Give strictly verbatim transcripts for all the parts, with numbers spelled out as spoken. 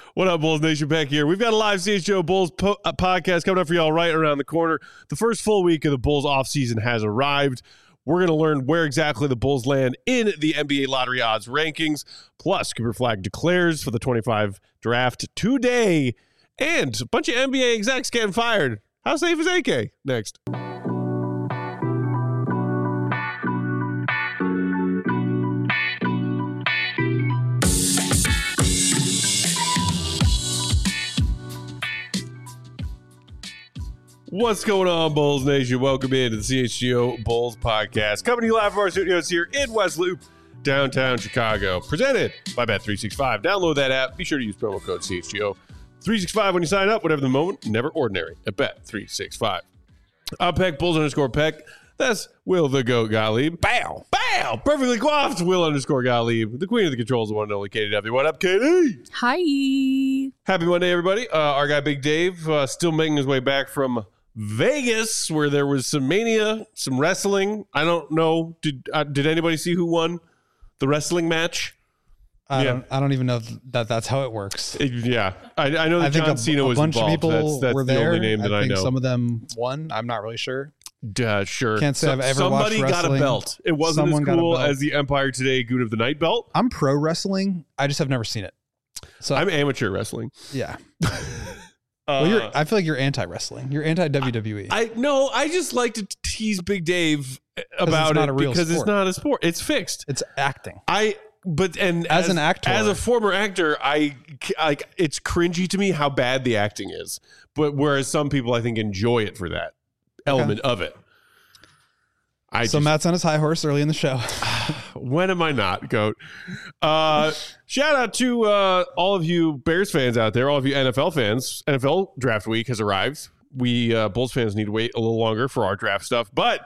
What up, Bulls Nation? Back here. We've got a live C H G O Bulls po- uh, podcast coming up for y'all right around the corner. The first full week of the Bulls offseason has arrived. We're going to learn where exactly the Bulls land in the N B A lottery odds rankings. Plus, Cooper Flag declares for the twenty-five draft today. And a bunch of N B A execs getting fired. How safe is A K? Next. What's going on, Bulls Nation? Welcome in to the C H G O Bulls podcast. Coming to you live from our studios here in West Loop, downtown Chicago. Presented by Bet three sixty-five. Download that app. Be sure to use promo code C H G O three sixty-five when you sign up. Whatever the moment, never ordinary at Bet three sixty-five. I'm Peck, Bulls underscore Peck. That's Will the Goat Gottlieb. Bow, bow. Perfectly coiffed Will underscore Gottlieb. The queen of the controls, the one and only Katie W. What up, Katie? Hi. Happy Monday, everybody. Uh, our guy Big Dave uh, still making his way back from Vegas, where there was some mania, some wrestling. I don't know. Did uh, did anybody see who won the wrestling match? I yeah. don't. I don't even know that that's how it works. It, yeah, I, I know that I think John a, Cena a was bunch involved. of people that's that's were the there. only name that I, I, think know. Some of them won. I'm not really sure. Uh, sure. Can't say so, I've ever somebody watched got a wrestling. belt. It wasn't Someone as got a cool belt. as the Empire Today Goon of the Night belt. I'm pro wrestling. I just have never seen it. So I'm amateur wrestling. yeah. Uh, Well, you're, I feel like you're anti-wrestling. You're anti-W W E. I no, I just like to tease Big Dave about not it a real because it's sport. not a sport. It's fixed. It's acting. I but and As an actor. as a former actor, I like it's cringy to me how bad the acting is. But whereas some people I think enjoy it for that element of it. I so just, Matt's on his high horse early in the show. when am I not, Goat? Uh, shout out to uh, all of you Bears fans out there, all of you N F L fans. N F L draft week has arrived. We uh, Bulls fans need to wait a little longer for our draft stuff, but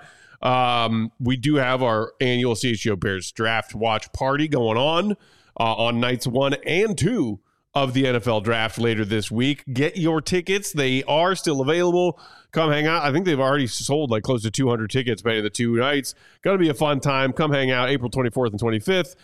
um, we do have our annual C H G O Bears draft watch party going on uh, on nights one and two of the N F L draft later this week. Get your tickets. They are still available. Come hang out. I think they've already sold like close to two hundred tickets between the two nights. Going to be a fun time. Come hang out April twenty-fourth and twenty-fifth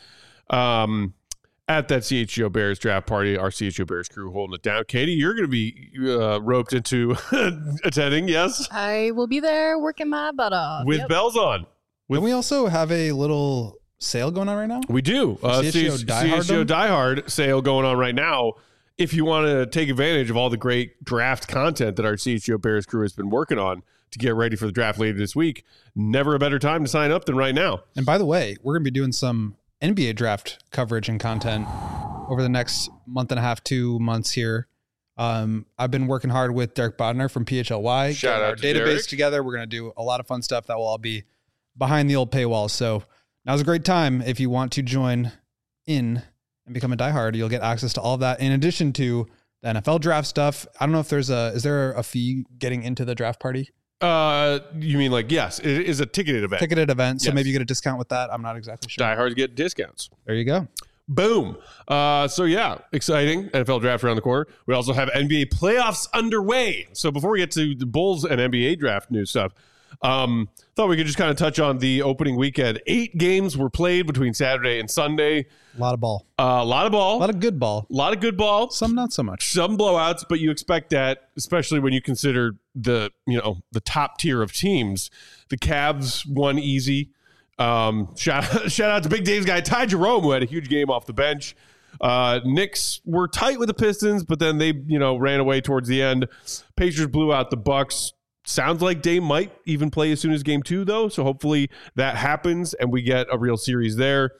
um, at that C H G O Bears draft party. Our C H G O Bears crew holding it down. Katie, you're going to be uh, roped into attending, yes? I will be there working my butt off. With Yep. bells on. With, Don't we also have a little sale going on right now? we do. Uh, C H G O C Die H G O Hard Die Hard sale going on right now. If you want to take advantage of all the great draft content that our C H G O Bears crew has been working on to get ready for the draft later this week, never a better time to sign up than right now. And by the way, we're going to be doing some N B A draft coverage and content over the next month and a half, two months here. Um, I've been working hard with Derek Bodner from P H L Y. Shout getting out our to database Derek. together. We're going to do a lot of fun stuff that will all be behind the old paywall. So now's a great time if you want to join in and become a diehard. You'll get access to all of that in addition to the N F L draft stuff. I don't know if there's a, is there a fee getting into the draft party? Uh, you mean like, yes, it is a ticketed event. Ticketed event. So Yes. maybe you get a discount with that. I'm not exactly sure. Diehards get discounts. There you go. Boom. Uh, so yeah, exciting. N F L draft around the corner. We also have N B A playoffs underway. So before we get to the Bulls and N B A draft news stuff, um, thought we could just kind of touch on the opening weekend. Eight games were played between Saturday and Sunday. A lot of ball. Uh, a lot of ball. A lot of good ball. A lot of good ball. Some not so much. Some blowouts, but you expect that, especially when you consider the you know the top tier of teams. The Cavs won easy. Um, shout shout out to Big Dave's guy Ty Jerome, who had a huge game off the bench. Uh, Knicks were tight with the Pistons, but then they you know ran away towards the end. Pacers blew out the Bucks. Sounds like Dame might even play as soon as game two, though. So hopefully that happens and we get a real series there.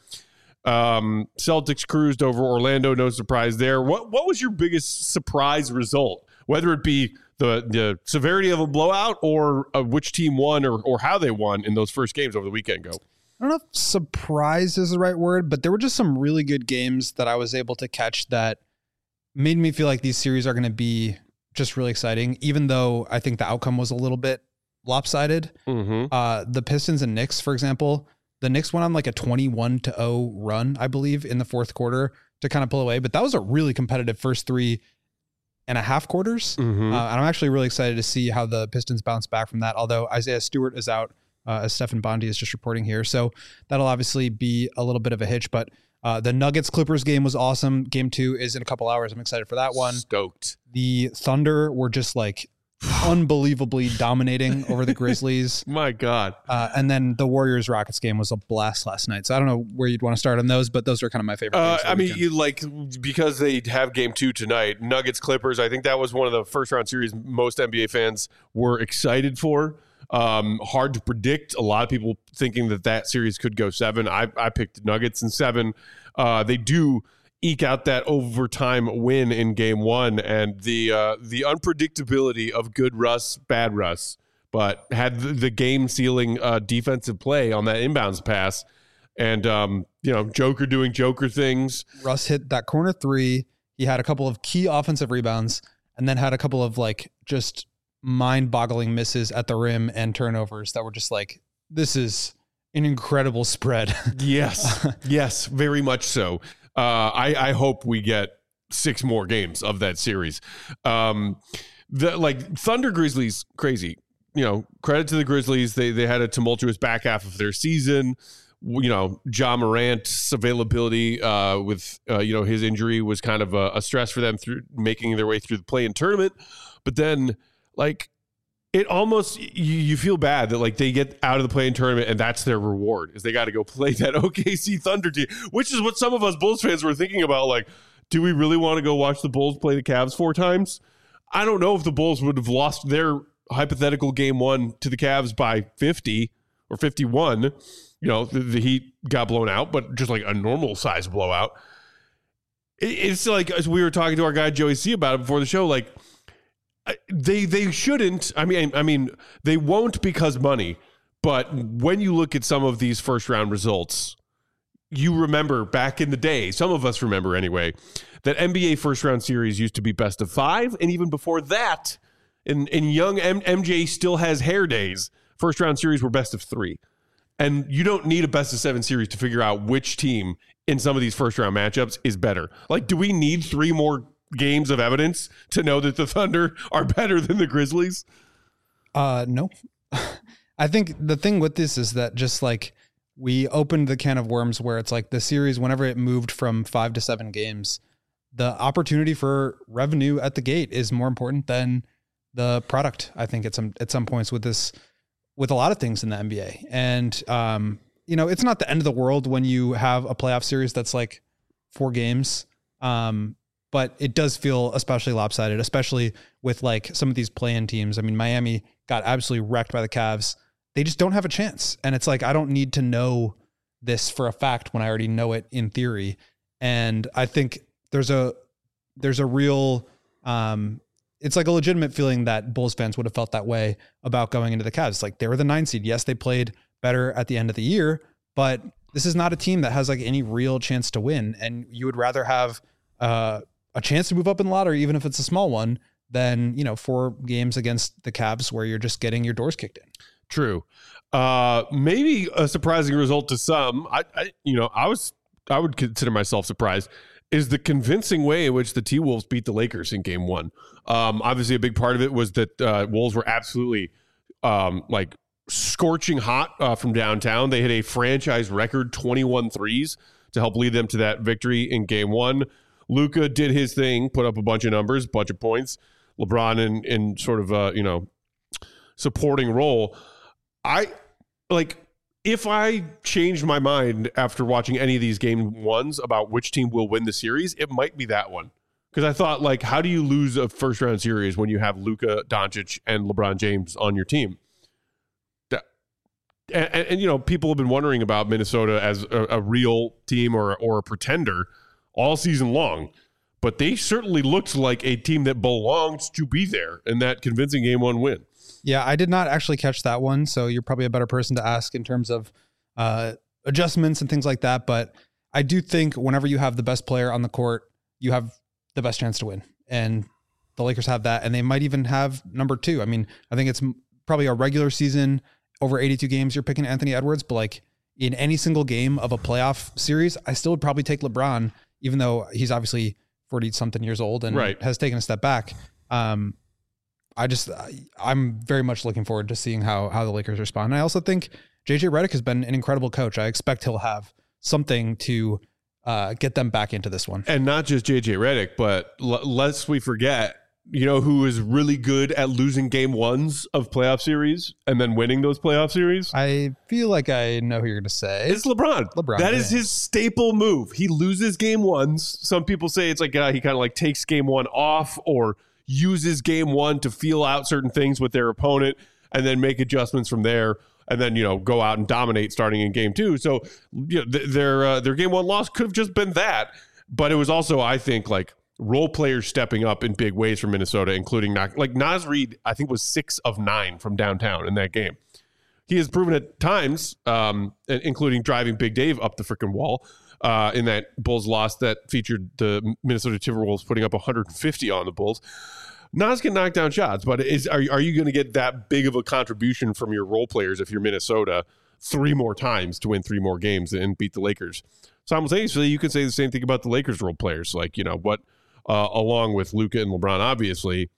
Um, Celtics cruised over Orlando. No surprise there. What what was your biggest surprise result? Whether it be the the severity of a blowout or uh, which team won or or how they won in those first games over the weekend. Go. I don't know if surprised is the right word, but there were just some really good games that I was able to catch that made me feel like these series are going to be just really exciting, even though I think the outcome was a little bit lopsided. Mm-hmm. Uh, the Pistons and Knicks, for example, the Knicks went on like a twenty-one to oh run, I believe, in the fourth quarter to kind of pull away. But that was a really competitive first three and a half quarters. Mm-hmm. Uh, and I'm actually really excited to see how the Pistons bounce back from that. Although Isaiah Stewart is out, uh, as Stephen Bondi is just reporting here. So that'll obviously be a little bit of a hitch, but Uh, the Nuggets Clippers game was awesome. Game two is in a couple hours. I'm excited for that one. Stoked. The Thunder were just like unbelievably dominating over the Grizzlies. My God. Uh, and then the Warriors Rockets game was a blast last night. So I don't know where you'd want to start on those, but those are kind of my favorite. Uh, games I mean, you like because they have game two tonight, Nuggets Clippers. I think that was one of the first round series most N B A fans were excited for. Um, hard to predict. A lot of people thinking that that series could go seven. I, I picked Nuggets in seven. Uh, they do eke out that overtime win in game one, and the uh, the unpredictability of good Russ, bad Russ, but had the, the game sealing uh, defensive play on that inbounds pass, and um, you know, Joker doing Joker things. Russ hit that corner three. He had a couple of key offensive rebounds, and then had a couple of like just mind-boggling misses at the rim and turnovers that were just like, this is an incredible spread. Yes, yes, very much so. Uh, I, I hope we get six more games of that series. Um, the like Thunder Grizzlies, crazy. You know, credit to the Grizzlies. They they had a tumultuous back half of their season. You know, Ja Morant's availability uh, with uh, you know his injury was kind of a, a stress for them through making their way through the play-in tournament. But then, like, it almost you, you feel bad that like they get out of the play-in tournament and that's their reward is they got to go play that O K C Thunder team, which is what some of us Bulls fans were thinking about. Like, do we really want to go watch the Bulls play the Cavs four times? I don't know if the Bulls would have lost their hypothetical game one to the Cavs by fifty or fifty-one. You know, the, the Heat got blown out, but just like a normal size blowout. It, it's like, as we were talking to our guy Joey C about it before the show, like, They they shouldn't. I mean, I mean, they won't because money. But when you look at some of these first round results, you remember back in the day. Some of us remember anyway that N B A first round series used to be best of five, and even before that, in in young M- MJ still has hair days. First round series were best of three, and you don't need a best of seven series to figure out which team in some of these first round matchups is better. Like, do we need three more games of evidence to know that the Thunder are better than the Grizzlies? Uh, no. I think the thing with this is that just like we opened the can of worms where it's like the series, whenever it moved from five to seven games, the opportunity for revenue at the gate is more important than the product. I think at some, at some points with this, with a lot of things in the N B A. And, um, you know, it's not the end of the world when you have a playoff series that's like four games. Um, But it does feel especially lopsided, especially with like some of these play-in teams. I mean, Miami got absolutely wrecked by the Cavs. They just don't have a chance. And it's like, I don't need to know this for a fact when I already know it in theory. And I think there's a, there's a real, um, it's like a legitimate feeling that Bulls fans would have felt that way about going into the Cavs. Like, they were the nine seed. Yes, they played better at the end of the year, but this is not a team that has like any real chance to win. And you would rather have, uh, a chance to move up in the lottery, even if it's a small one, than, you know, four games against the Cavs where you're just getting your doors kicked in. True. Uh, maybe a surprising result to some. I, I, you know, I was, I would consider myself surprised, is the convincing way in which the T-Wolves beat the Lakers in game one. Um, obviously a big part of it was that uh, Wolves were absolutely um, like scorching hot uh, from downtown. They hit a franchise record twenty-one threes to help lead them to that victory in game one. Luka did his thing, put up a bunch of numbers, bunch of points. LeBron in, in sort of a, you know, supporting role. I like, if I changed my mind after watching any of these game ones about which team will win the series, it might be that one. Because I thought, like, how do you lose a first round series when you have Luka Doncic and LeBron James on your team? That, and, and, and you know, people have been wondering about Minnesota as a, a real team or or a pretender all season long, but they certainly looked like a team that belonged to be there in that convincing game one win. Yeah, I did not actually catch that one, so you're probably a better person to ask in terms of uh, adjustments and things like that. But I do think whenever you have the best player on the court, you have the best chance to win. And the Lakers have that, and they might even have number two. I mean, I think it's probably a regular season over eighty-two games, you're picking Anthony Edwards, but like in any single game of a playoff series, I still would probably take LeBron, even though he's obviously forty something years old and right. has taken a step back. Um, I just, I'm very much looking forward to seeing how, how the Lakers respond. And I also think J J Redick has been an incredible coach. I expect he'll have something to uh, get them back into this one. And not just J J Redick, but l- lest we forget, you know, who is really good at losing game ones of playoff series and then winning those playoff series? I feel like I know who you're going to say. It's LeBron. LeBron. That yeah. is his staple move. He loses game ones. Some people say it's like uh, he kind of like takes game one off or uses game one to feel out certain things with their opponent and then make adjustments from there. And then, you know, go out and dominate starting in game two. So, you know, th- their uh, their game one loss could have just been that. But it was also, I think, like role players stepping up in big ways for Minnesota, including not, like Naz Reid, I think was six of nine from downtown in that game. He has proven at times, um, including driving Big Dave up the freaking wall uh, in that Bulls loss that featured the Minnesota Timberwolves putting up one hundred fifty on the Bulls. Nas can knock down shots, but is are, are you going to get that big of a contribution from your role players if you're Minnesota three more times to win three more games and beat the Lakers? Simultaneously, you could say the same thing about the Lakers role players. Like, you know, what, uh, along with Luka and LeBron, obviously,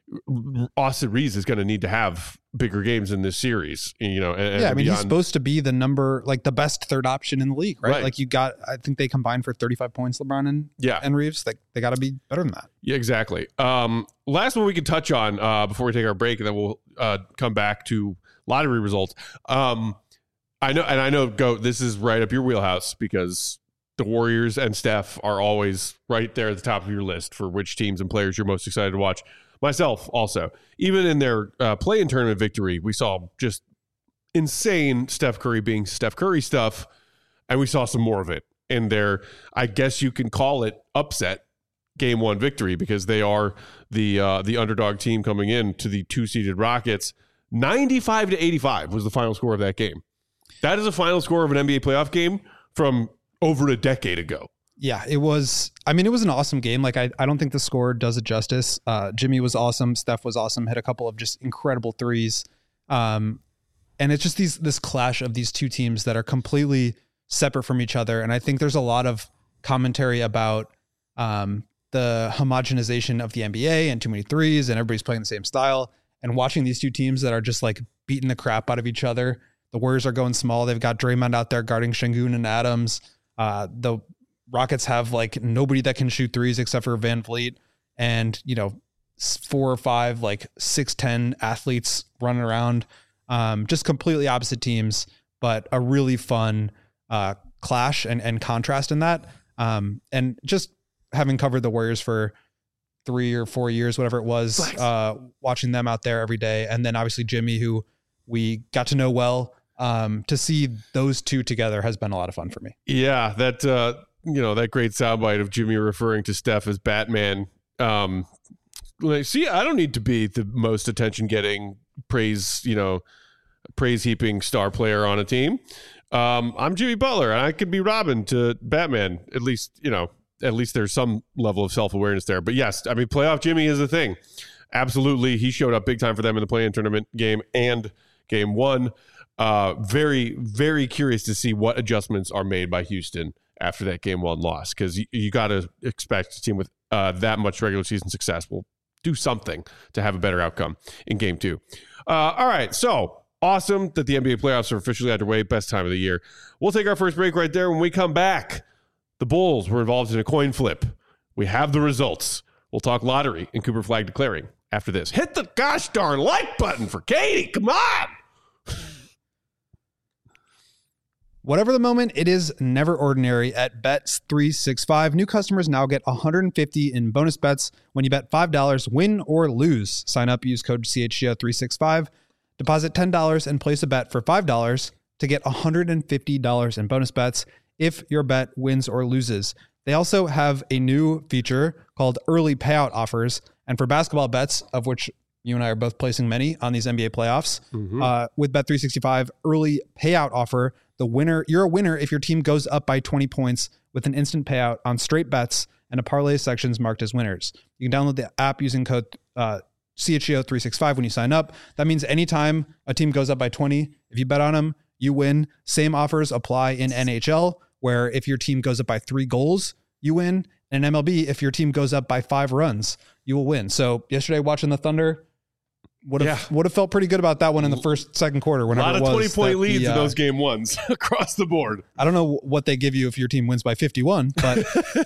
Austin Reeves is going to need to have bigger games in this series. You know, and, yeah, and I mean, beyond. he's supposed to be the number, like the best third option in the league, right? Right. Like you got, I think they combined for thirty-five points, LeBron and, Yeah. and Reeves. Like they got to be better than that. Yeah, exactly. Um, last one we can touch on uh, before we take our break, and then we'll uh, come back to lottery results. Um, I know, and I know, Go, this is right up your wheelhouse because the Warriors and Steph are always right there at the top of your list for which teams and players you're most excited to watch. Myself also. Even in their uh, play-in tournament victory, we saw just insane Steph Curry being Steph Curry stuff, and we saw some more of it in their, I guess you can call it, upset game one victory because they are the uh, the underdog team coming in to the two-seeded Rockets. ninety-five to eighty-five was the final score of that game. That is a final score of an N B A playoff game from over a decade ago. Yeah, it was, I mean, it was an awesome game. Like, I, I don't think the score does it justice. Uh, Jimmy was awesome. Steph was awesome. Hit a couple of just incredible threes. Um, and it's just these this clash of these two teams that are completely separate from each other. And I think there's a lot of commentary about um, the homogenization of the N B A and too many threes and everybody's playing the same style. And watching these two teams that are just like beating the crap out of each other. The Warriors are going small. They've got Draymond out there guarding Şengün and Adams. Uh, the Rockets have like nobody that can shoot threes except for Van Vliet and, you know, four or five, like six ten athletes running around. Um, just completely opposite teams, but a really fun uh, clash and, and contrast in that. Um, and just having covered the Warriors for three or four years, whatever it was, uh, watching them out there every day. And then obviously Jimmy, who we got to know well, um, to see those two together has been a lot of fun for me. Yeah, that, uh, you know, that great soundbite of Jimmy referring to Steph as Batman. Um, like, see, I don't need to be the most attention getting praise, you know, praise heaping star player on a team. Um, I'm Jimmy Butler and I could be Robin to Batman. At least, you know, at least there's some level of self-awareness there. But yes, I mean, playoff Jimmy is a thing. Absolutely. He showed up big time for them in the play-in tournament game and game one. Uh, very, very curious to see what adjustments are made by Houston after that game one loss, because you, you got to expect a team with uh, that much regular season success will do something to have a better outcome in game two. Uh, all right, so awesome that the N B A playoffs are officially underway. Best time of the year. We'll take our first break right there. When we come back, the Bulls were involved in a coin flip. We have the results. We'll talk lottery and Cooper Flag declaring after this. Hit the gosh darn like button for Katie. Come on. Whatever the moment, it is never ordinary at Bet three sixty-five. New customers now get one hundred fifty in bonus bets when you bet five dollars, win or lose. Sign up, use code C H G O three sixty-five. Deposit ten dollars and place a bet for five dollars to get one hundred fifty dollars in bonus bets if your bet wins or loses. They also have a new feature called early payout offers. And for basketball bets, of which you and I are both placing many on these N B A playoffs, mm-hmm. uh, with Bet three sixty-five early payout offer, the winner, you're a winner if your team goes up by twenty points with an instant payout on straight bets and a parlay sections marked as winners. You can download the app using code uh, C H G O three sixty-five when you sign up. That means anytime a team goes up by twenty, if you bet on them, you win. Same offers apply in N H L, where if your team goes up by three goals, you win. And M L B, if your team goes up by five runs, you will win. So yesterday watching the Thunder, would have Yeah. would have felt pretty good about that one in the first second quarter. A Whenever lot of it was twenty point that leads the, in uh, those game ones across the board. I don't know what they give you if your team wins by fifty-one, but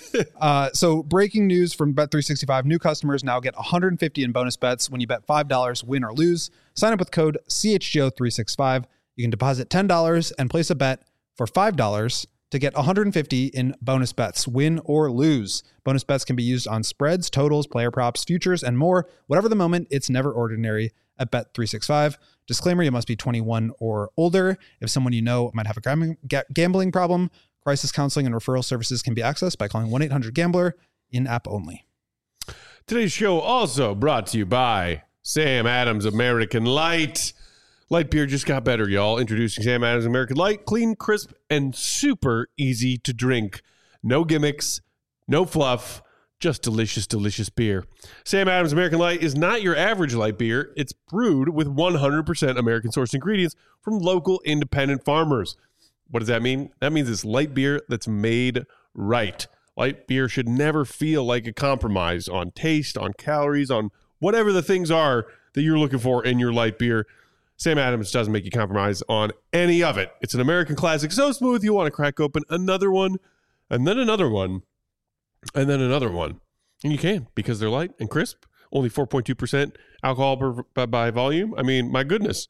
uh, so breaking news from Bet three sixty-five: new customers now get one hundred fifty in bonus bets when you bet five dollars, win or lose. Sign up with code C H G O three sixty-five. You can deposit ten dollars and place a bet for five dollars to get one hundred fifty in bonus bets, win or lose. Bonus bets can be used on spreads, totals, player props, futures, and more. Whatever the moment, it's never ordinary at Bet three sixty-five. Disclaimer, you must be twenty-one or older. If someone you know might have a gam- ga- gambling problem, crisis counseling and referral services can be accessed by calling one eight hundred gambler, in-app only. Today's show also brought to you by Sam Adams American Light. Light beer just got better, y'all. Introducing Sam Adams American Light. Clean, crisp, and super easy to drink. No gimmicks, no fluff, just delicious, delicious beer. Sam Adams American Light is not your average light beer. It's brewed with one hundred percent American-sourced ingredients from local independent farmers. What does that mean? That means it's light beer that's made right. Light beer should never feel like a compromise on taste, on calories, on whatever the things are that you're looking for in your light beer. Sam Adams doesn't make you compromise on any of it. It's an American classic, so smooth you want to crack open another one, and then another one, and then another one. And you can, because they're light and crisp. Only four point two percent alcohol per, by, by volume. I mean, my goodness.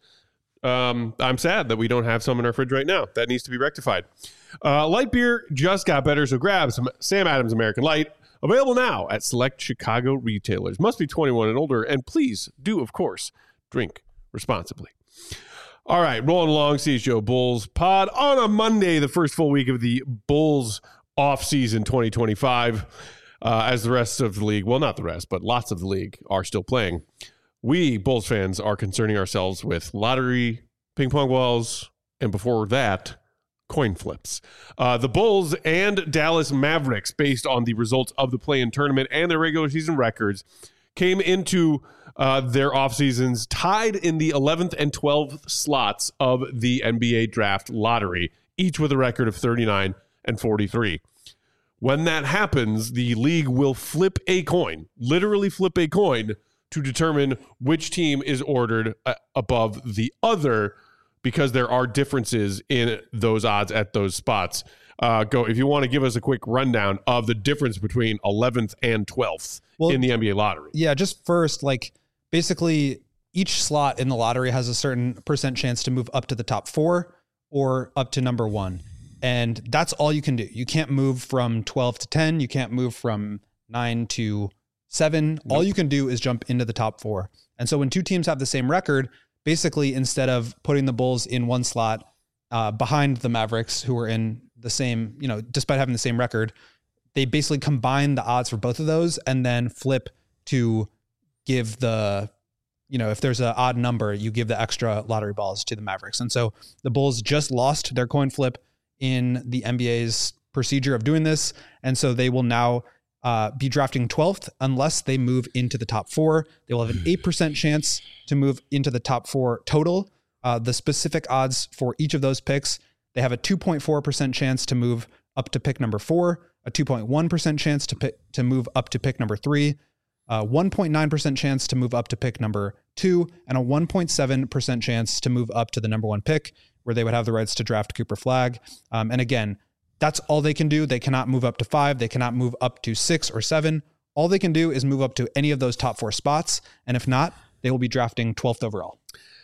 Um, I'm sad that we don't have some in our fridge right now. That needs to be rectified. Uh, light beer just got better, so grab some Sam Adams American Light. Available now at select Chicago retailers. Must be twenty-one and older, and please do, of course, drink responsibly. All right, rolling along, C H G O Bulls pod on a Monday, the first full week of the Bulls off-season twenty twenty-five, uh, as the rest of the league, well, not the rest, but lots of the league are still playing. We, Bulls fans, are concerning ourselves with lottery, ping pong balls, and before that, coin flips. Uh, the Bulls and Dallas Mavericks, based on the results of the play-in tournament and their regular season records, came into uh, their off seasons tied in the eleventh and twelfth slots of the N B A draft lottery, each with a record of thirty-nine and forty-three. When that happens, the league will flip a coin, literally flip a coin, to determine which team is ordered uh, above the other, because there are differences in those odds at those spots. Uh, go if you want to give us a quick rundown of the difference between eleventh and twelfth well, in the N B A lottery. Yeah, just first, like basically each slot in the lottery has a certain percent chance to move up to the top four or up to number one. And that's all you can do. You can't move from twelve to ten. You can't move from nine to seven. Nope. All you can do is jump into the top four. And so when two teams have the same record, basically instead of putting the Bulls in one slot uh, behind the Mavericks, who are in the same, you know, despite having the same record, they basically combine the odds for both of those and then flip to give the, you know, if there's an odd number, you give the extra lottery balls to the Mavericks. And so the Bulls just lost their coin flip in the N B A's procedure of doing this. And so they will now uh, be drafting twelfth unless they move into the top four. They will have an eight percent chance to move into the top four total. Uh, the specific odds for each of those picks, they have a two point four percent chance to move up to pick number four, a two point one percent chance to pick, to move up to pick number three, a one point nine percent chance to move up to pick number two, and a one point seven percent chance to move up to the number one pick, where they would have the rights to draft Cooper Flagg. Um, and again, that's all they can do. They cannot move up to five. They cannot move up to six or seven. All they can do is move up to any of those top four spots. And if not, they will be drafting twelfth overall.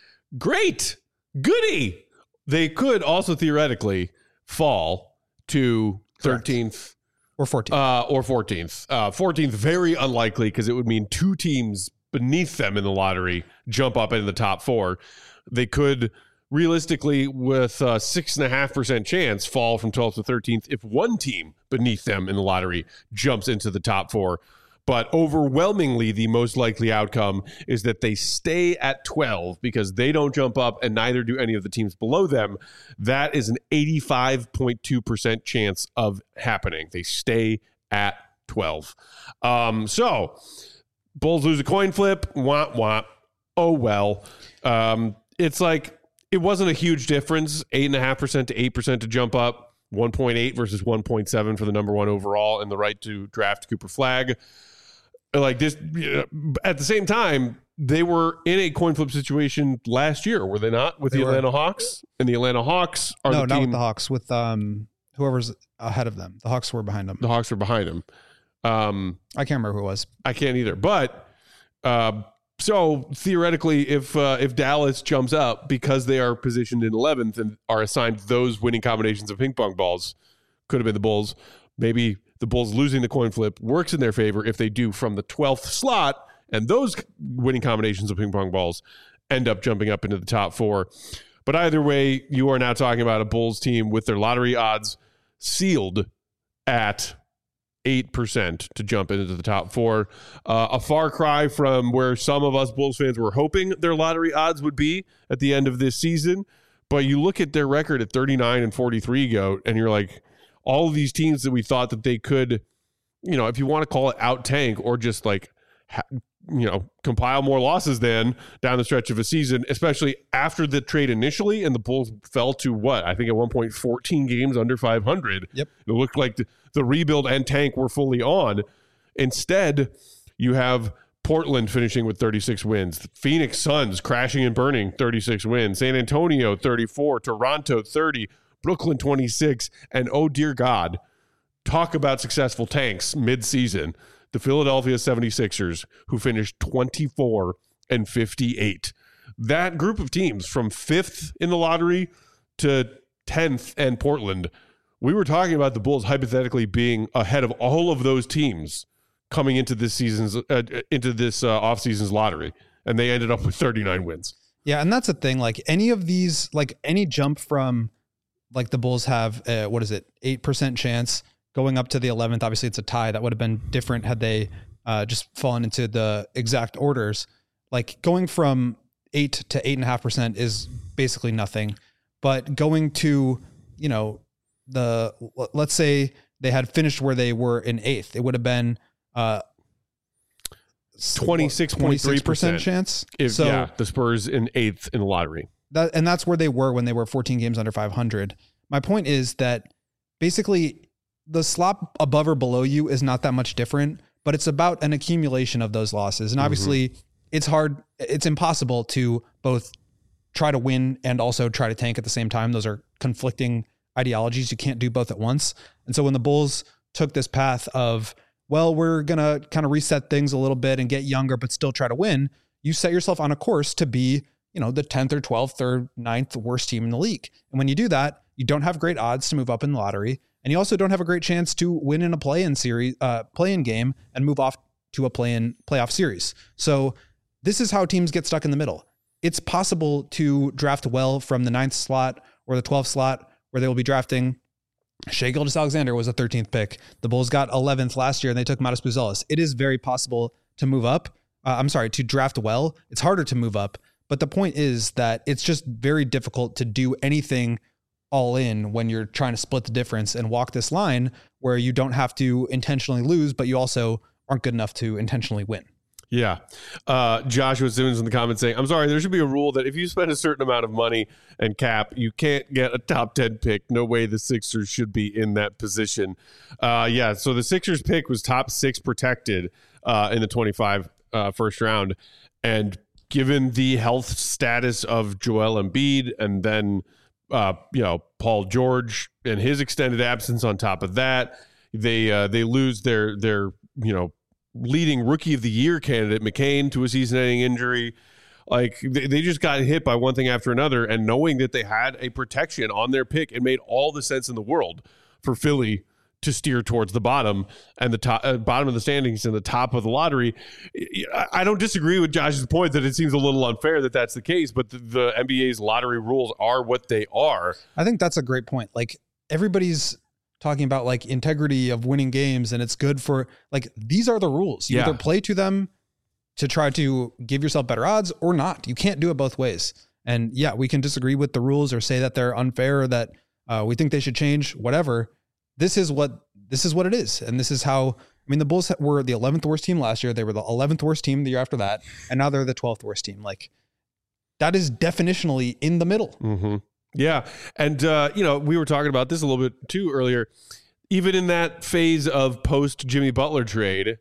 Great. Goody. They could also theoretically fall to thirteenth. Correct. Or fourteenth. Uh, or fourteenth. Uh, fourteenth, very unlikely, because it would mean two teams beneath them in the lottery jump up into the top four. They could realistically, with a six and a half percent chance, fall from twelfth to thirteenth if one team beneath them in the lottery jumps into the top four. But overwhelmingly, the most likely outcome is that they stay at twelve because they don't jump up and neither do any of the teams below them. That is an eighty-five point two percent chance of happening. They stay at twelve. Um, so, Bulls lose a coin flip. Womp womp. Oh, well. Um, it's like, it wasn't a huge difference, eight point five percent to eight percent to jump up, one point eight versus one point seven for the number one overall and the right to draft Cooper Flagg. Like this, at the same time, they were in a coin flip situation last year, were they not? With They the were. Atlanta Hawks, and the Atlanta Hawks are no, the not team. with the Hawks. With um, whoever's ahead of them. The Hawks were behind them. The Hawks are behind them. Um, I can't remember who it was. I can't either. But uh, so theoretically, if uh, if Dallas jumps up because they are positioned in eleventh and are assigned those winning combinations of ping pong balls, could have been the Bulls. Maybe the Bulls losing the coin flip works in their favor if they do from the twelfth slot, and those winning combinations of ping pong balls end up jumping up into the top four. But either way, you are now talking about a Bulls team with their lottery odds sealed at eight percent to jump into the top four. Uh, a far cry from where some of us Bulls fans were hoping their lottery odds would be at the end of this season. But you look at their record at thirty-nine and forty-three, Goat, and you're like, all of these teams that we thought that they could, you know, if you want to call it out tank or just like, ha- you know, compile more losses than down the stretch of a season, especially after the trade initially, and the Bulls fell to what? I think at one point fourteen games under five hundred. Yep. It looked like the, the rebuild and tank were fully on. Instead, you have Portland finishing with thirty-six wins, Phoenix Suns crashing and burning, thirty-six wins, San Antonio thirty-four, Toronto thirty, Brooklyn twenty-six, and oh dear God, talk about successful tanks mid-season. The Philadelphia seventy-sixers, who finished twenty-four and fifty-eight. That group of teams from fifth in the lottery to tenth and Portland, we were talking about the Bulls hypothetically being ahead of all of those teams coming into this season's uh, into this uh, offseason's lottery, and they ended up with thirty-nine wins. Yeah, and that's the thing. Like any of these, like any jump from, like the Bulls have, uh, what is it, eight percent chance going up to the eleventh. Obviously, it's a tie. That would have been different had they uh, just fallen into the exact orders. Like going from eight to eight and a half percent is basically nothing. But going to, you know, the let's say they had finished where they were in eighth, it would have been uh, twenty-six point three percent chance. If, so yeah, the Spurs in eighth in the lottery. that, and that's where they were when they were fourteen games under five hundred. My point is that basically the slot above or below you is not that much different, but it's about an accumulation of those losses. And obviously mm-hmm. it's hard. It's impossible to both try to win and also try to tank at the same time. Those are conflicting ideologies. You can't do both at once. And so when the Bulls took this path of, well, we're going to kind of reset things a little bit and get younger, but still try to win, you set yourself on a course to be, you know, the tenth or twelfth or ninth worst team in the league. And when you do that, you don't have great odds to move up in the lottery. And you also don't have a great chance to win in a play-in series, uh, play-in game and move off to a play-in playoff series. So this is how teams get stuck in the middle. It's possible to draft well from the ninth slot or the twelfth slot, where they will be drafting. Shai Gilgeous-Alexander was a thirteenth pick. The Bulls got eleventh last year and they took Matas Buzelis. It is very possible to move up. Uh, I'm sorry, to draft well. It's harder to move up. But the point is that it's just very difficult to do anything all in when you're trying to split the difference and walk this line where you don't have to intentionally lose, but you also aren't good enough to intentionally win. Yeah. Uh, Joshua Simmons in the comments saying, I'm sorry, there should be a rule that if you spend a certain amount of money and cap, you can't get a top ten pick. No way the Sixers should be in that position. Uh, yeah, so the Sixers pick was top six protected uh, in the twenty-five uh, first round. And given the health status of Joel Embiid and then, uh, you know, Paul George and his extended absence on top of that, they uh, they lose their their, you know, leading rookie of the year candidate McCain to a season-ending injury. Like they, they just got hit by one thing after another, and knowing that they had a protection on their pick, it made all the sense in the world for Philly to steer towards the bottom and the top, uh, bottom of the standings and the top of the lottery. I, I don't disagree with Josh's point that it seems a little unfair that that's the case, but the, the N B A's lottery rules are what they are. I think that's a great point. Like everybody's talking about like integrity of winning games, and it's good for like, these are the rules. You yeah. either play to them to try to give yourself better odds or not. You can't do it both ways. And yeah, we can disagree with the rules or say that they're unfair or that uh, we think they should change, whatever. This is what, this is what it is. And this is how, I mean, the Bulls were the eleventh worst team last year. They were the eleventh worst team the year after that. And now they're the twelfth worst team. Like that is definitionally in the middle. Mm-hmm. Yeah. And, uh, you know, we were talking about this a little bit too earlier. Even in that phase of post Jimmy Butler trade,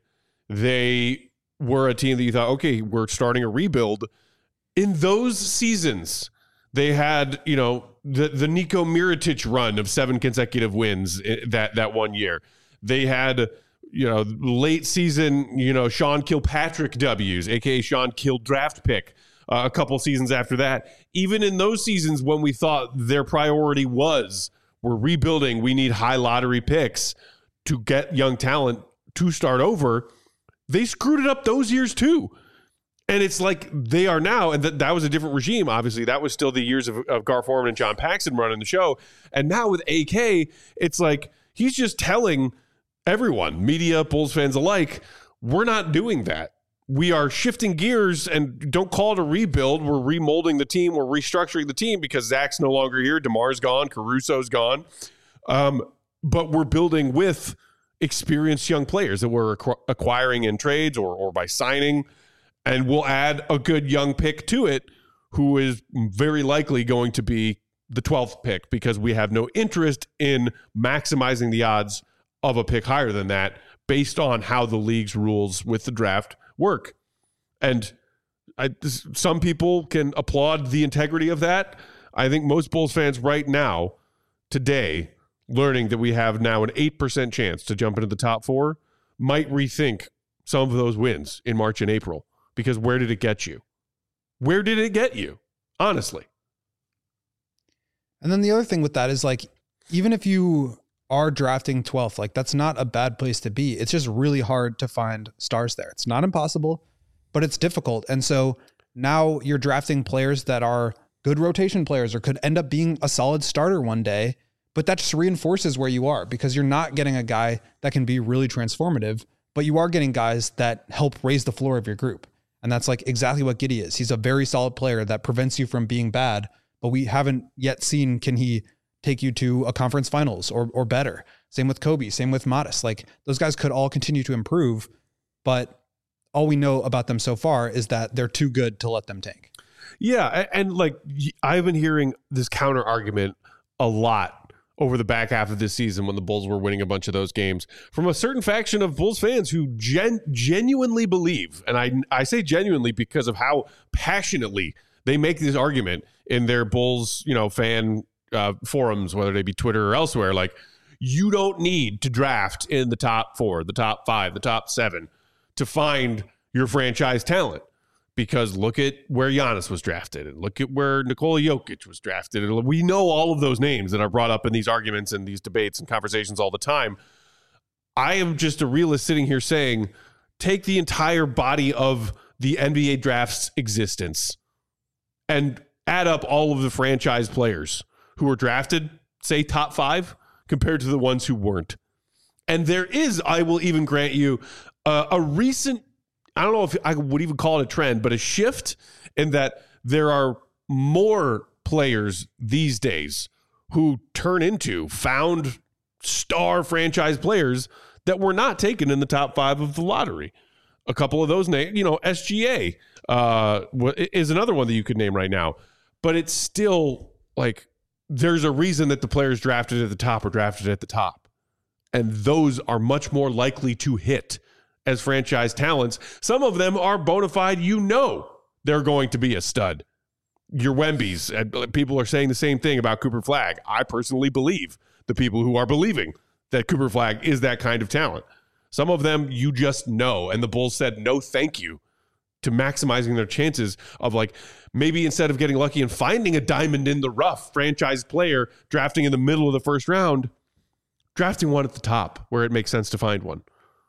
They were a team that you thought, okay, we're starting a rebuild. In those seasons, they had, you know, the, the Nico Mirotic run of seven consecutive wins that, that one year. They had, you know, late season, you know, Sean Kilpatrick W's, a k a. Sean Kill draft pick uh, a couple seasons after that. Even in those seasons when we thought their priority was, we're rebuilding, we need high lottery picks to get young talent to start over, they screwed it up those years too. And it's like they are now, and th- that was a different regime, obviously. That was still the years of, of Gar Forman and John Paxson running the show. And now with A K, it's like he's just telling everyone, media, Bulls fans alike, we're not doing that. We are shifting gears, and don't call it a rebuild. We're remolding the team. We're restructuring the team because Zach's no longer here. DeMar's gone. Caruso's gone. Um, but we're building with experienced young players that we're acqu- acquiring in trades or, or by signing. And we'll add a good young pick to it who is very likely going to be the twelfth pick because we have no interest in maximizing the odds of a pick higher than that based on how the league's rules with the draft work. And I, some people can applaud the integrity of that. I think most Bulls fans right now, today, learning that we have now an eight percent chance to jump into the top four, might rethink some of those wins in March and April. Because where did it get you? Where did it get you? Honestly. And then the other thing with that is like, even if you are drafting twelfth, like that's not a bad place to be. It's just really hard to find stars there. It's not impossible, but it's difficult. And so now you're drafting players that are good rotation players or could end up being a solid starter one day, but that just reinforces where you are because you're not getting a guy that can be really transformative, but you are getting guys that help raise the floor of your group. And that's like exactly what Giddey is. He's a very solid player that prevents you from being bad, but we haven't yet seen, can he take you to a conference finals or or better? Same with Kobe, same with Modest. Like those guys could all continue to improve, but all we know about them so far is that they're too good to let them tank. Yeah. And, and like I've been hearing this counter argument a lot over the back half of this season when the Bulls were winning a bunch of those games from a certain faction of Bulls fans who gen- genuinely believe, and I I say genuinely because of how passionately they make this argument in their Bulls, you know, fan uh, forums, whether they be Twitter or elsewhere, like you don't need to draft in the top four, the top five, the top seven to find your franchise talent. Because look at where Giannis was drafted and look at where Nikola Jokic was drafted. And we know all of those names that are brought up in these arguments and these debates and conversations all the time. I am just a realist sitting here saying, take the entire body of the N B A draft's existence and add up all of the franchise players who were drafted, say top five, compared to the ones who weren't. And there is, I will even grant you, uh, a recent I don't know if I would even call it a trend, but a shift in that there are more players these days who turn into found star franchise players that were not taken in the top five of the lottery. A couple of those names, you know, S G A uh, is another one that you could name right now, but it's still like there's a reason that the players drafted at the top are drafted at the top. And those are much more likely to hit as franchise talents. Some of them are bona fide, you know, they're going to be a stud. Your Wembys, and people are saying the same thing about Cooper Flagg. I personally believe the people who are believing that Cooper Flagg is that kind of talent. Some of them you just know, and the Bulls said no thank you to maximizing their chances of like maybe instead of getting lucky and finding a diamond in the rough franchise player drafting in the middle of the first round, drafting one at the top where it makes sense to find one.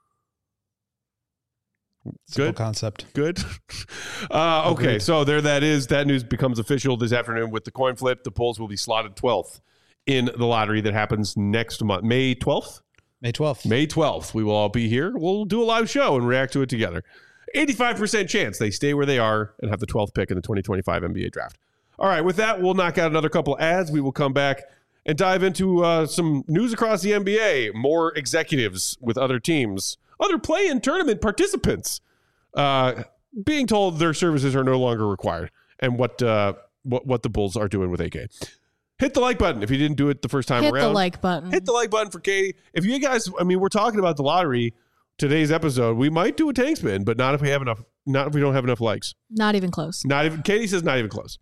Simple Good concept. Good. Uh, okay, Agreed. so there that is. That news becomes official this afternoon with the coin flip. The Bulls will be slotted twelfth in the lottery that happens next month, May twelfth. May twelfth. May twelfth. We will all be here. We'll do a live show and react to it together. eighty-five percent chance they stay where they are and have the twelfth pick in the twenty twenty-five N B A draft. All right, with that, we'll knock out another couple ads. We will come back and dive into uh, some news across the N B A, more executives with other teams, other play-in tournament participants uh, being told their services are no longer required, and what uh, what what the Bulls are doing with A K. Hit the like button if you didn't do it the first time Hit around. the like button. Hit the like button for Katie. If you guys, I mean, we're talking about the lottery. today's episode, we might do a tank spin, but not if we have enough. Not if we don't have enough likes. Not even close. Not even. Katie says not even close.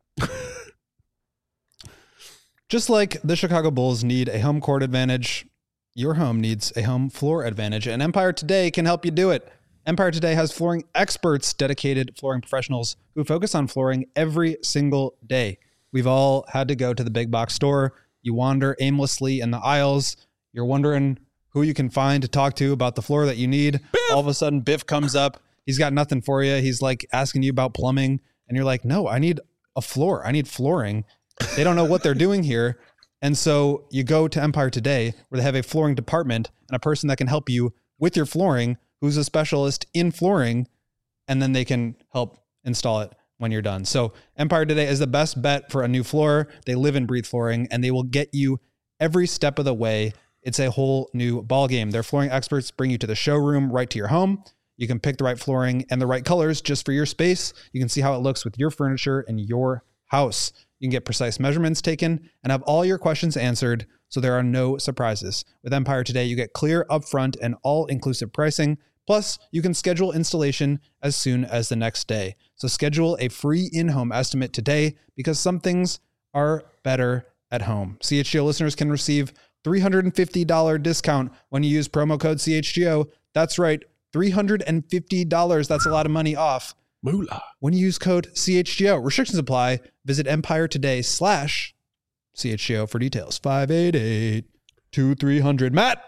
Just like the Chicago Bulls need a home court advantage, your home needs a home floor advantage, and Empire Today can help you do it. Empire Today has flooring experts, dedicated flooring professionals who focus on flooring every single day. We've all had to go to the big box store. You wander aimlessly in the aisles. You're wondering who you can find to talk to about the floor that you need. Biff! All of a sudden, Biff comes up. He's got nothing for you. He's like asking you about plumbing. And you're like, no, I need a floor. I need flooring. They don't know what they're doing here. And so you go to Empire Today, where they have a flooring department and a person that can help you with your flooring, who's a specialist in flooring, and then they can help install it when you're done. So Empire Today is the best bet for a new floor. They live and breathe flooring, and they will get you every step of the way. It's a whole new ballgame. Their flooring experts bring you to the showroom, right to your home. You can pick the right flooring and the right colors just for your space. You can see how it looks with your furniture and your house. You can get precise measurements taken and have all your questions answered, so there are no surprises. With Empire Today, you get clear, upfront, and all-inclusive pricing. Plus, you can schedule installation as soon as the next day. So schedule a free in-home estimate today, because some things are better at home. C H G O listeners can receive three hundred fifty dollars discount when you use promo code C H G O. That's right, three hundred fifty dollars. That's a lot of money off. Moolah. When you use code C H G O. Restrictions apply. Visit Empire Today slash C H G O for details. five eight eight, two three zero zero. Matt.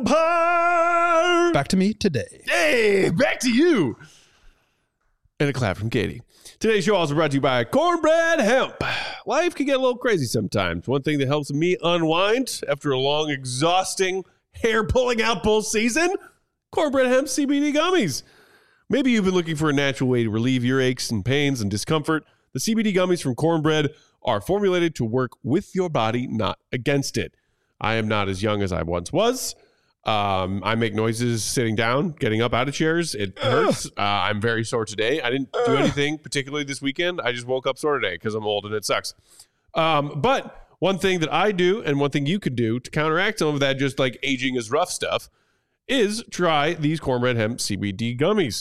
Empire. Back to me today. Hey, back to you. And a clap from Katie. Today's show also brought to you by Cornbread Hemp. Life can get a little crazy sometimes. One thing that helps me unwind after a long, exhausting, hair-pulling out bull season, Cornbread Hemp C B D gummies. Maybe you've been looking for a natural way to relieve your aches and pains and discomfort. The C B D gummies from Cornbread are formulated to work with your body, not against it. I am not as young as I once was. Um, I make noises sitting down, getting up out of chairs. It hurts. Uh, I'm very sore today. I didn't do anything particularly this weekend. I just woke up sore today because I'm old and it sucks. Um, but one thing that I do, and one thing you could do to counteract some of that just like aging is rough stuff, is try these Cornbread Hemp C B D gummies.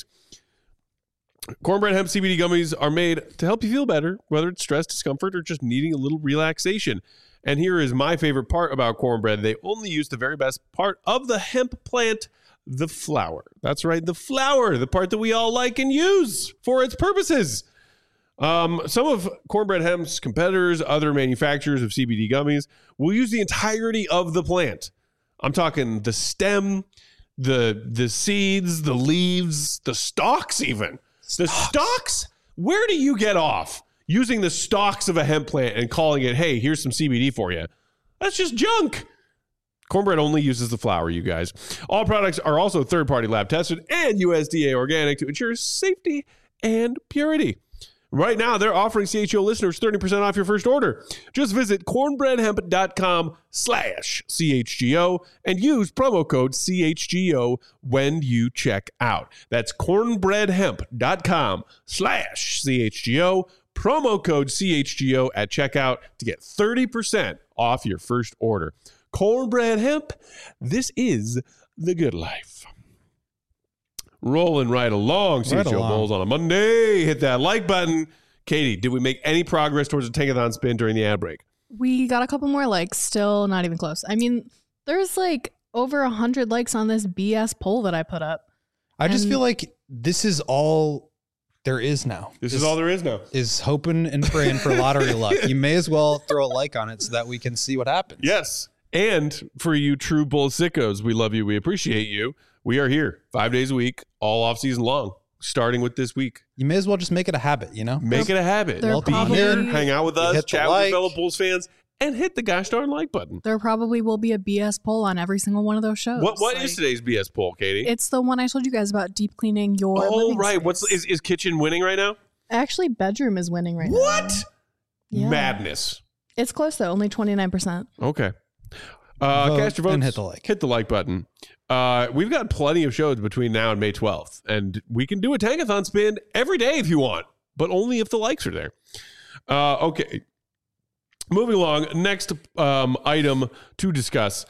Cornbread Hemp C B D gummies are made to help you feel better, whether it's stress, discomfort, or just needing a little relaxation. And here is my favorite part about Cornbread. They only use the very best part of the hemp plant, the flower. That's right, the flower, the part that we all like and use for its purposes. Um, some of Cornbread Hemp's competitors, other manufacturers of C B D gummies, will use the entirety of the plant. I'm talking the stem, the the seeds, the leaves, the stalks even. The stalks? Where do you get off using the stalks of a hemp plant and calling it, hey, here's some C B D for you? That's just junk. Cornbread only uses the flower, you guys. All products are also third-party lab tested and U S D A organic to ensure safety and purity. Right now, they're offering C H G O listeners thirty percent off your first order. Just visit cornbreadhemp.com slash CHGO and use promo code C H G O when you check out. That's cornbreadhemp.com slash CHGO, promo code C H G O at checkout to get thirty percent off your first order. Cornbread Hemp, this is the good life. Rolling right along, C H G O along. Bulls on a Monday. Hit that like button. Katie, did we make any progress towards a tankathon spin during the ad break? We got a couple more likes, still not even close. I mean, there's like over a hundred likes on this B S poll that I put up. I just And- feel like this is all there is now. This is all there is now. Is hoping and praying for lottery luck. You may as well throw a like on it so that we can see what happens. Yes. And for you true bull sickos, we love you. We appreciate you. We are here five days a week, all off season long, starting with this week. You may as well just make it a habit, you know? Make it a habit. They're Be probably- here, hang out with You us, hit the chat with like. your fellow Bulls fans, and hit the gosh darn like button. There probably will be a B S poll on every single one of those shows. What What is Like, today's B S poll, Katie? It's the one I told you guys about deep cleaning your Oh, living right. space. What's is, is kitchen winning right now? Actually, bedroom is winning right What? now. Yeah. Madness. It's close though, only twenty-nine percent. Okay. Uh, Vote cast your votes and hit the like. Hit the like button. Uh, we've got plenty of shows between now and May twelfth, and we can do a tankathon spin every day if you want, but only if the likes are there. Uh, okay. Moving along, next um, item to discuss.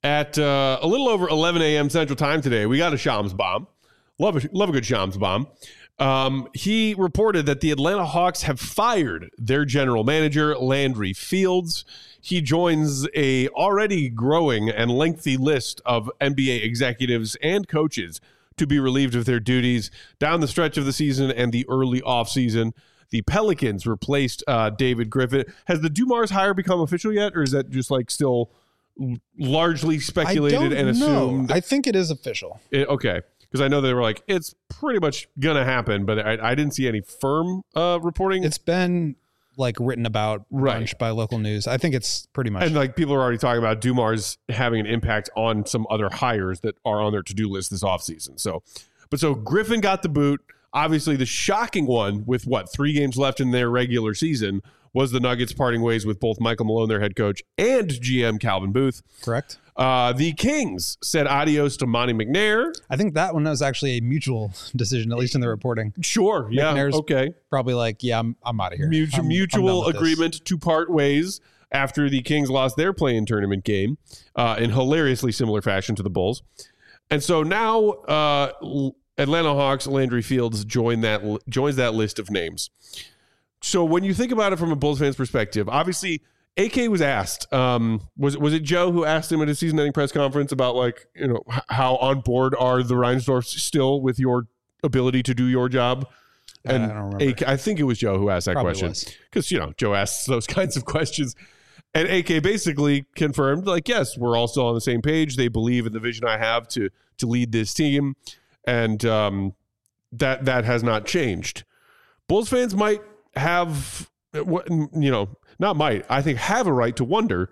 at uh, a little over eleven a.m. Central Time today, we got a Shams bomb. Love a, love a good Shams bomb. Um, he reported that the Atlanta Hawks have fired their general manager, Landry Fields. He joins a already growing and lengthy list of N B A executives and coaches to be relieved of their duties down the stretch of the season and the early offseason. The Pelicans replaced uh, David Griffin. Has the Dumars hire become official yet, or is that just like still largely speculated I don't and assumed? know. I think it is official. It, okay. Because I know they were like, it's pretty much going to happen, but I, I didn't see any firm uh, reporting. It's been like written about Right. bunch by local news. I think it's pretty much. And like people are already talking about Dumars having an impact on some other hires that are on their to-do list this offseason. So, but so Griffin got the boot. Obviously, the shocking one with what, three games left in their regular season was the Nuggets parting ways with both Michael Malone, their head coach, and G M Calvin Booth. Correct. Uh, the Kings said adios to Monty McNair. I think that one was actually a mutual decision, at least in the reporting. Sure. Yeah. McNair's Okay. Probably like, yeah, I'm, I'm out of here. Mutual, I'm- I'm mutual done with this. agreement to part ways after the Kings lost their play-in tournament game uh, in hilariously similar fashion to the Bulls. And so now uh, Atlanta Hawks, Landry Fields join that joins that list of names. So when you think about it from a Bulls fan's perspective, obviously A K was asked, um, was was it Joe who asked him at his season-ending press conference about like, you know, h- how on board are the Reinsdorfs still with your ability to do your job? And I don't remember. A K, I think it was Joe who asked that Probably question was. because, you know, Joe asks those kinds of questions. And A K basically confirmed, like, yes, we're all still on the same page. They believe in the vision I have to to lead this team. And um, that that has not changed. Bulls fans might have, you know, not might, I think have a right to wonder.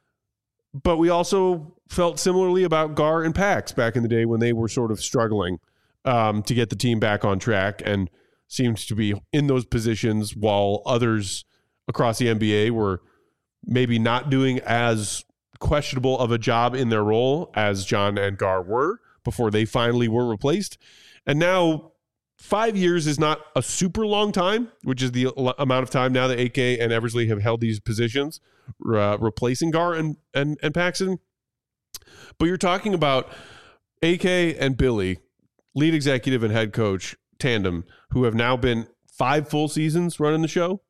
But we also felt similarly about Gar and Pax back in the day when they were sort of struggling um, to get the team back on track and seemed to be in those positions while others across the N B A were maybe not doing as questionable of a job in their role as John and Gar were before they finally were replaced. And now five years is not a super long time, which is the l- amount of time now that A K and Eversley have held these positions, uh, replacing Gar and, and, and Paxson. But you're talking about A K and Billy, lead executive and head coach tandem, who have now been five full seasons running the show,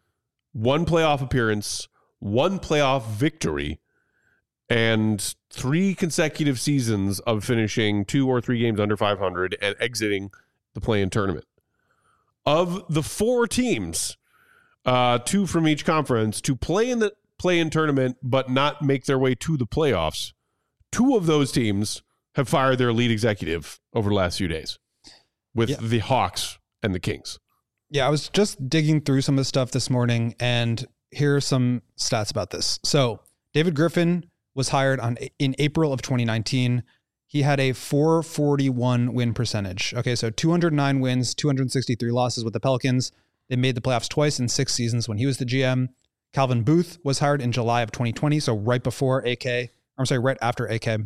one playoff appearance, one playoff victory, and three consecutive seasons of finishing two or three games under five hundred and exiting the play-in tournament. Of the four teams, uh, two from each conference, to play in the play-in tournament but not make their way to the playoffs, two of those teams have fired their lead executive over the last few days, with Yeah. the Hawks and the Kings. Yeah, I was just digging through some of the stuff this morning, and here are some stats about this. So David Griffin was hired on in April of twenty nineteen. He had a four forty-one win percentage. Okay, so two hundred nine wins, two hundred sixty-three losses with the Pelicans. They made the playoffs twice in six seasons when he was the G M. Calvin Booth was hired in July of twenty twenty, so right before A K. I'm sorry, right after A K.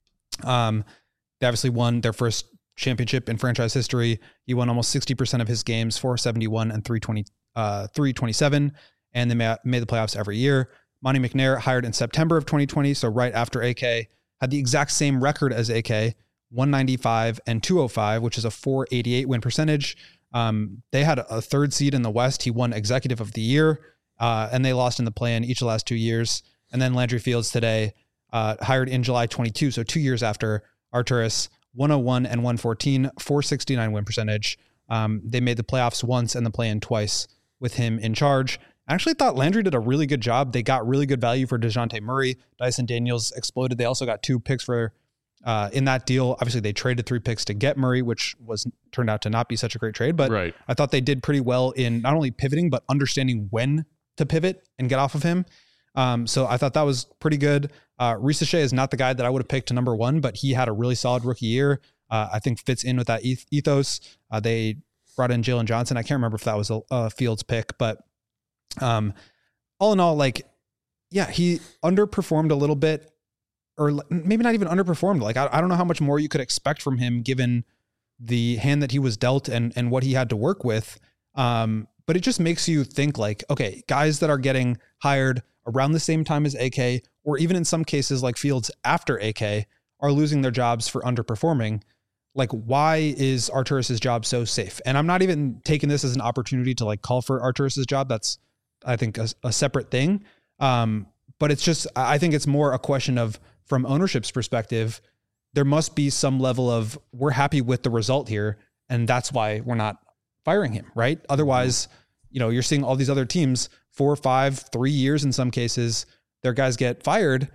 Um, they obviously won their first championship in franchise history. He won almost sixty percent of his games, four seventy-one and three twenty, uh, three twenty-seven, and they ma- made the playoffs every year. Monty McNair, hired in September of twenty twenty, so right after A K, had the exact same record as A K, one ninety-five and two oh five, which is a four eighty-eight win percentage. Um, they had a third seed in the West. He won Executive of the Year, uh, and they lost in the play-in each of the last two years. And then Landry Fields today, uh, hired in July twenty-two, so two years after Arturas, one oh one and one fourteen, four sixty-nine win percentage. Um, they made the playoffs once and the play-in twice with him in charge. I actually thought Landry did a really good job. They got really good value for DeJounte Murray. Dyson Daniels exploded. They also got two picks for uh, in that deal. Obviously, they traded three picks to get Murray, which was turned out to not be such a great trade. But Right. I thought they did pretty well in not only pivoting, but understanding when to pivot and get off of him. Um, so I thought that was pretty good. Uh, Risa Shea is not the guy that I would have picked to number one, but he had a really solid rookie year. Uh, I think fits in with that eth- ethos. Uh, they brought in Jalen Johnson. I can't remember if that was a, a Fields pick, but um, all in all, like, yeah, he underperformed a little bit, or maybe not even underperformed. Like, I, I don't know how much more you could expect from him given the hand that he was dealt and, and what he had to work with. Um, but it just makes you think like, okay, guys that are getting hired around the same time as A K or even in some cases like Fields after A K, are losing their jobs for underperforming. Like, why is Arturas's job so safe? And I'm not even taking this as an opportunity to like call for Arturas's job. That's, I think, a, a separate thing. Um, but it's just, I think it's more a question of, from ownership's perspective, there must be some level of, we're happy with the result here, and that's why we're not firing him, right? Otherwise, you know, you're seeing all these other teams, four, five, three years in some cases, their guys get fired.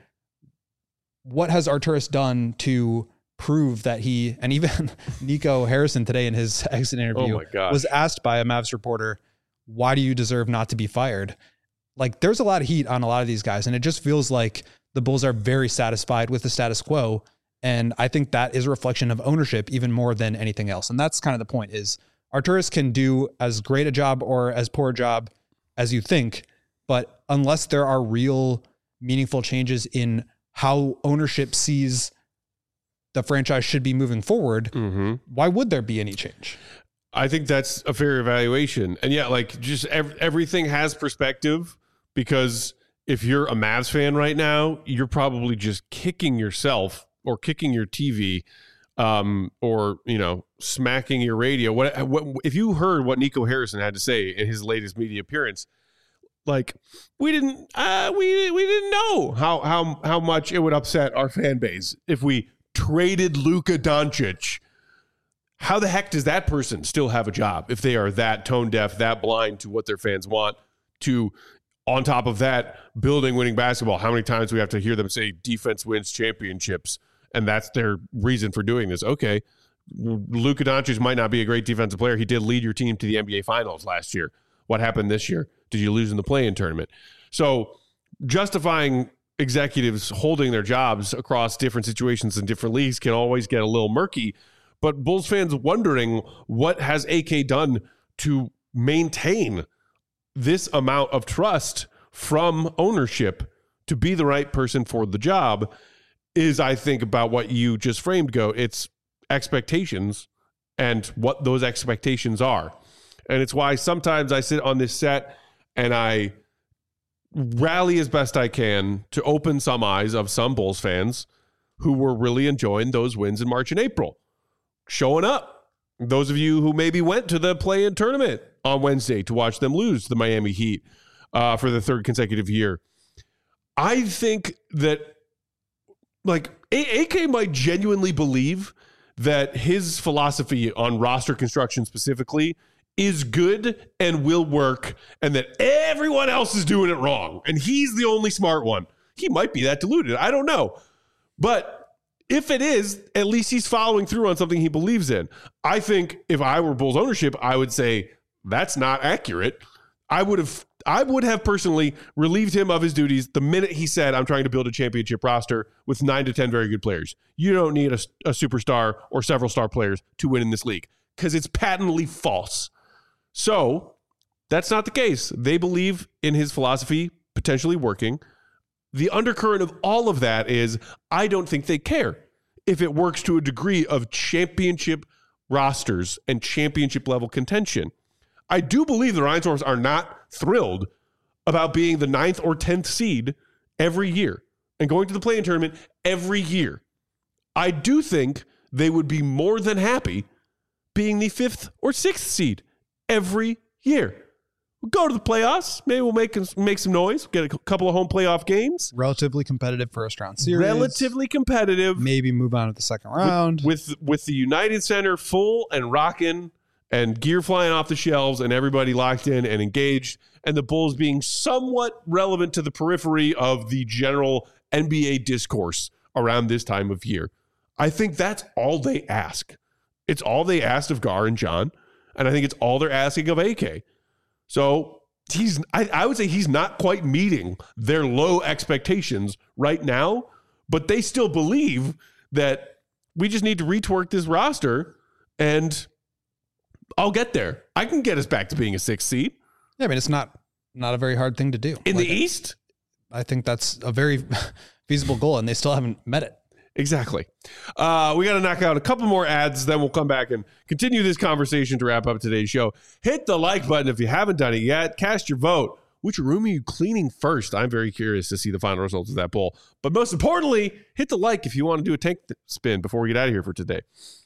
What has Arturas done to prove that he, and even Nico Harrison today in his exit interview oh my gosh. was asked by a Mavs reporter, why do you deserve not to be fired? Like, there's a lot of heat on a lot of these guys, and it just feels like the Bulls are very satisfied with the status quo. And I think that is a reflection of ownership even more than anything else. And that's kind of the point, is Arturas can do as great a job or as poor a job as you think, but unless there are real meaningful changes in how ownership sees the franchise should be moving forward, mm-hmm. why would there be any change? I think that's a fair evaluation. And yeah, like just ev- everything has perspective, because if you're a Mavs fan right now, you're probably just kicking yourself or kicking your T V, um, or, you know, smacking your radio. What, what if you heard what Nico Harrison had to say in his latest media appearance? Like, we didn't, uh, we we didn't know how how how much it would upset our fan base if we traded Luka Doncic. How the heck does that person still have a job if they are that tone deaf, that blind to what their fans want? To, on top of that, building winning basketball. How many times do we have to hear them say defense wins championships, and that's their reason for doing this? Okay, Luka Doncic might not be a great defensive player. He did lead your team to the N B A Finals last year. What happened this year? Did you lose in the play-in tournament? So justifying executives holding their jobs across different situations in different leagues can always get a little murky. But Bulls fans wondering, what has A K done to maintain this amount of trust from ownership to be the right person for the job is, I think, about what you just framed, Go. It's expectations and what those expectations are. And it's why sometimes I sit on this set and I rally as best I can to open some eyes of some Bulls fans who were really enjoying those wins in March and April, showing up. Those of you who maybe went to the play-in tournament on Wednesday to watch them lose the Miami Heat uh, for the third consecutive year. I think that, like, A K might genuinely believe that his philosophy on roster construction specifically is good and will work, and that everyone else is doing it wrong, and he's the only smart one. He might be that deluded. I don't know. But if it is, at least he's following through on something he believes in. I think if I were Bulls ownership, I would say that's not accurate. I would have I would have personally relieved him of his duties the minute he said, I'm trying to build a championship roster with nine to ten very good players. You don't need a, a superstar or several star players to win in this league, because it's patently false. So that's not the case. They believe in his philosophy potentially working. The undercurrent of all of that is, I don't think they care if it works to a degree of championship rosters and championship level contention. I do believe the Reinsdorfs are not thrilled about being the ninth or tenth seed every year and going to the play-in tournament every year. I do think they would be more than happy being the fifth or sixth seed every year. We'll go to the playoffs. Maybe we'll make make some noise. Get a couple of home playoff games. Relatively competitive first round series. Relatively competitive. Maybe move on to the second round. With, with, with the United Center full and rocking and gear flying off the shelves and everybody locked in and engaged, and the Bulls being somewhat relevant to the periphery of the general N B A discourse around this time of year. I think that's all they ask. It's all they asked of Gar and John, and I think it's all they're asking of A K. So he's, I, I would say he's not quite meeting their low expectations right now, but they still believe that we just need to retwork this roster and I'll get there. I can get us back to being a sixth seed. Yeah, I mean, it's not not a very hard thing to do. In like, the East? I think that's a very feasible goal, and they still haven't met it. Exactly. Uh, we got to knock out a couple more ads, then we'll come back and continue this conversation to wrap up today's show. Hit the like button if you haven't done it yet. Cast your vote. which room are you cleaning first? I'm very curious to see the final results of that poll. But most importantly, hit the like if you want to do a tank spin before we get out of here for today.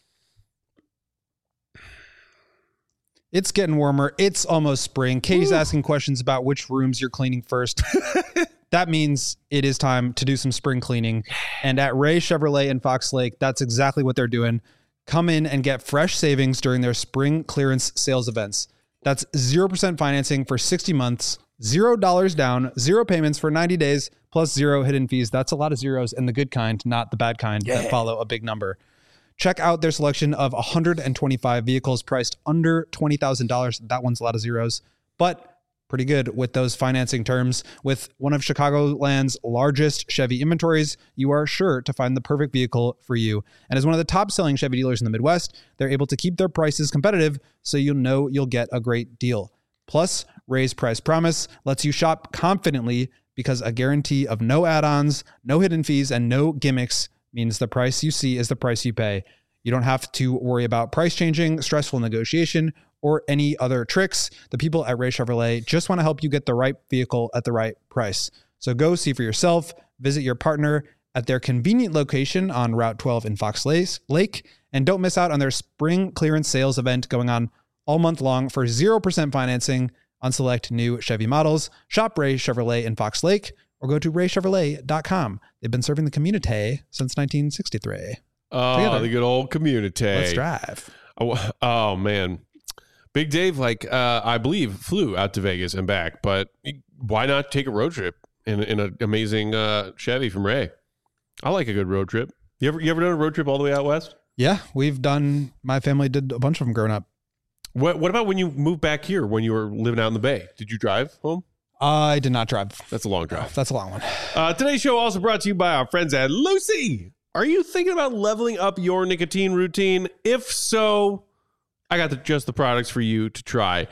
It's getting warmer. It's almost spring. Katie's Ooh. asking questions about which rooms you're cleaning first. That means it is time to do some spring cleaning. And at Ray Chevrolet in Fox Lake, that's exactly what they're doing. Come in and get fresh savings during their spring clearance sales events. That's zero percent financing for sixty months, zero dollars down, zero payments for ninety days, plus zero hidden fees. That's a lot of zeros, and the good kind, not the bad kind yeah. that follow a big number. Check out their selection of one hundred twenty-five vehicles priced under twenty thousand dollars. That one's a lot of zeros, but pretty good with those financing terms. With one of Chicagoland's largest Chevy inventories, you are sure to find the perfect vehicle for you. And as one of the top selling Chevy dealers in the Midwest, they're able to keep their prices competitive, so you'll know you'll get a great deal. Plus, Ray's Price Promise lets you shop confidently because a guarantee of no add-ons, no hidden fees, and no gimmicks means the price you see is the price you pay. You don't have to worry about price changing, stressful negotiation, or any other tricks. The people at Ray Chevrolet just want to help you get the right vehicle at the right price. So go see for yourself, visit your partner at their convenient location on Route twelve in Fox Lake, and don't miss out on their spring clearance sales event going on all month long for zero percent financing on select new Chevy models. Shop Ray Chevrolet in Fox Lake or go to ray chevrolet dot com. They've been serving the community since nineteen sixty-three. Oh, Together. The good old community. Let's drive. Oh, oh man. Big Dave, like, uh, I believe, flew out to Vegas and back, but why not take a road trip in, in an amazing uh, Chevy from Ray? I like a good road trip. You ever, you ever done a road trip all the way out west? Yeah, we've done, my family did a bunch of them growing up. What, what about when you moved back here, when you were living out in the Bay? Did you drive home? I did not drive. That's a long drive. That's a long one. Uh, today's show also brought to you by our friends at Lucy. Are you thinking about leveling up your nicotine routine? If so, I got the, just the products for you to try.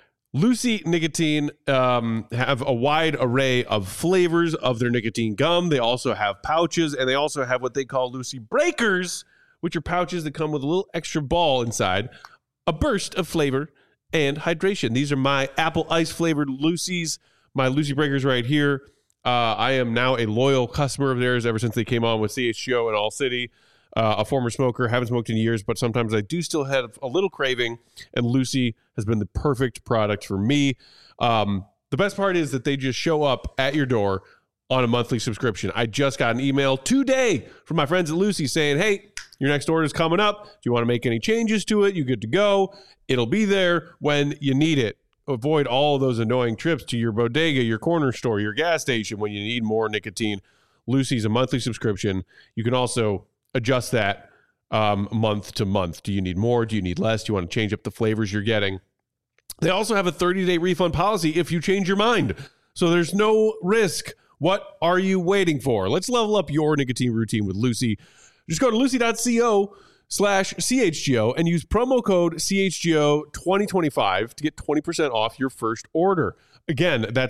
Lucy Nicotine um, have a wide array of flavors of their nicotine gum. They also have pouches, and they also have what they call Lucy Breakers, which are pouches that come with a little extra ball inside, a burst of flavor and hydration. These are my apple ice flavored Lucy's, my Lucy Breakers right here. Uh, I am now a loyal customer of theirs ever since they came on with C H G O and All City. Uh, a former smoker, haven't smoked in years, but sometimes I do still have a little craving, and Lucy has been the perfect product for me. Um, the best part is that they just show up at your door on a monthly subscription. I just got an email today from my friends at Lucy saying, hey, your next order is coming up. Do you want to make any changes to it? You're good to go. It'll be there when you need it. Avoid all of those annoying trips to your bodega, your corner store, your gas station when you need more nicotine. Lucy's a monthly subscription. You can also adjust that um, month to month. Do you need more? Do you need less? Do you want to change up the flavors you're getting? They also have a thirty-day refund policy if you change your mind. So there's no risk. What are you waiting for? Let's level up your nicotine routine with Lucy. Just go to lucy.co slash CHGO and use promo code C H G O twenty twenty-five to get twenty percent off your first order. Again, that's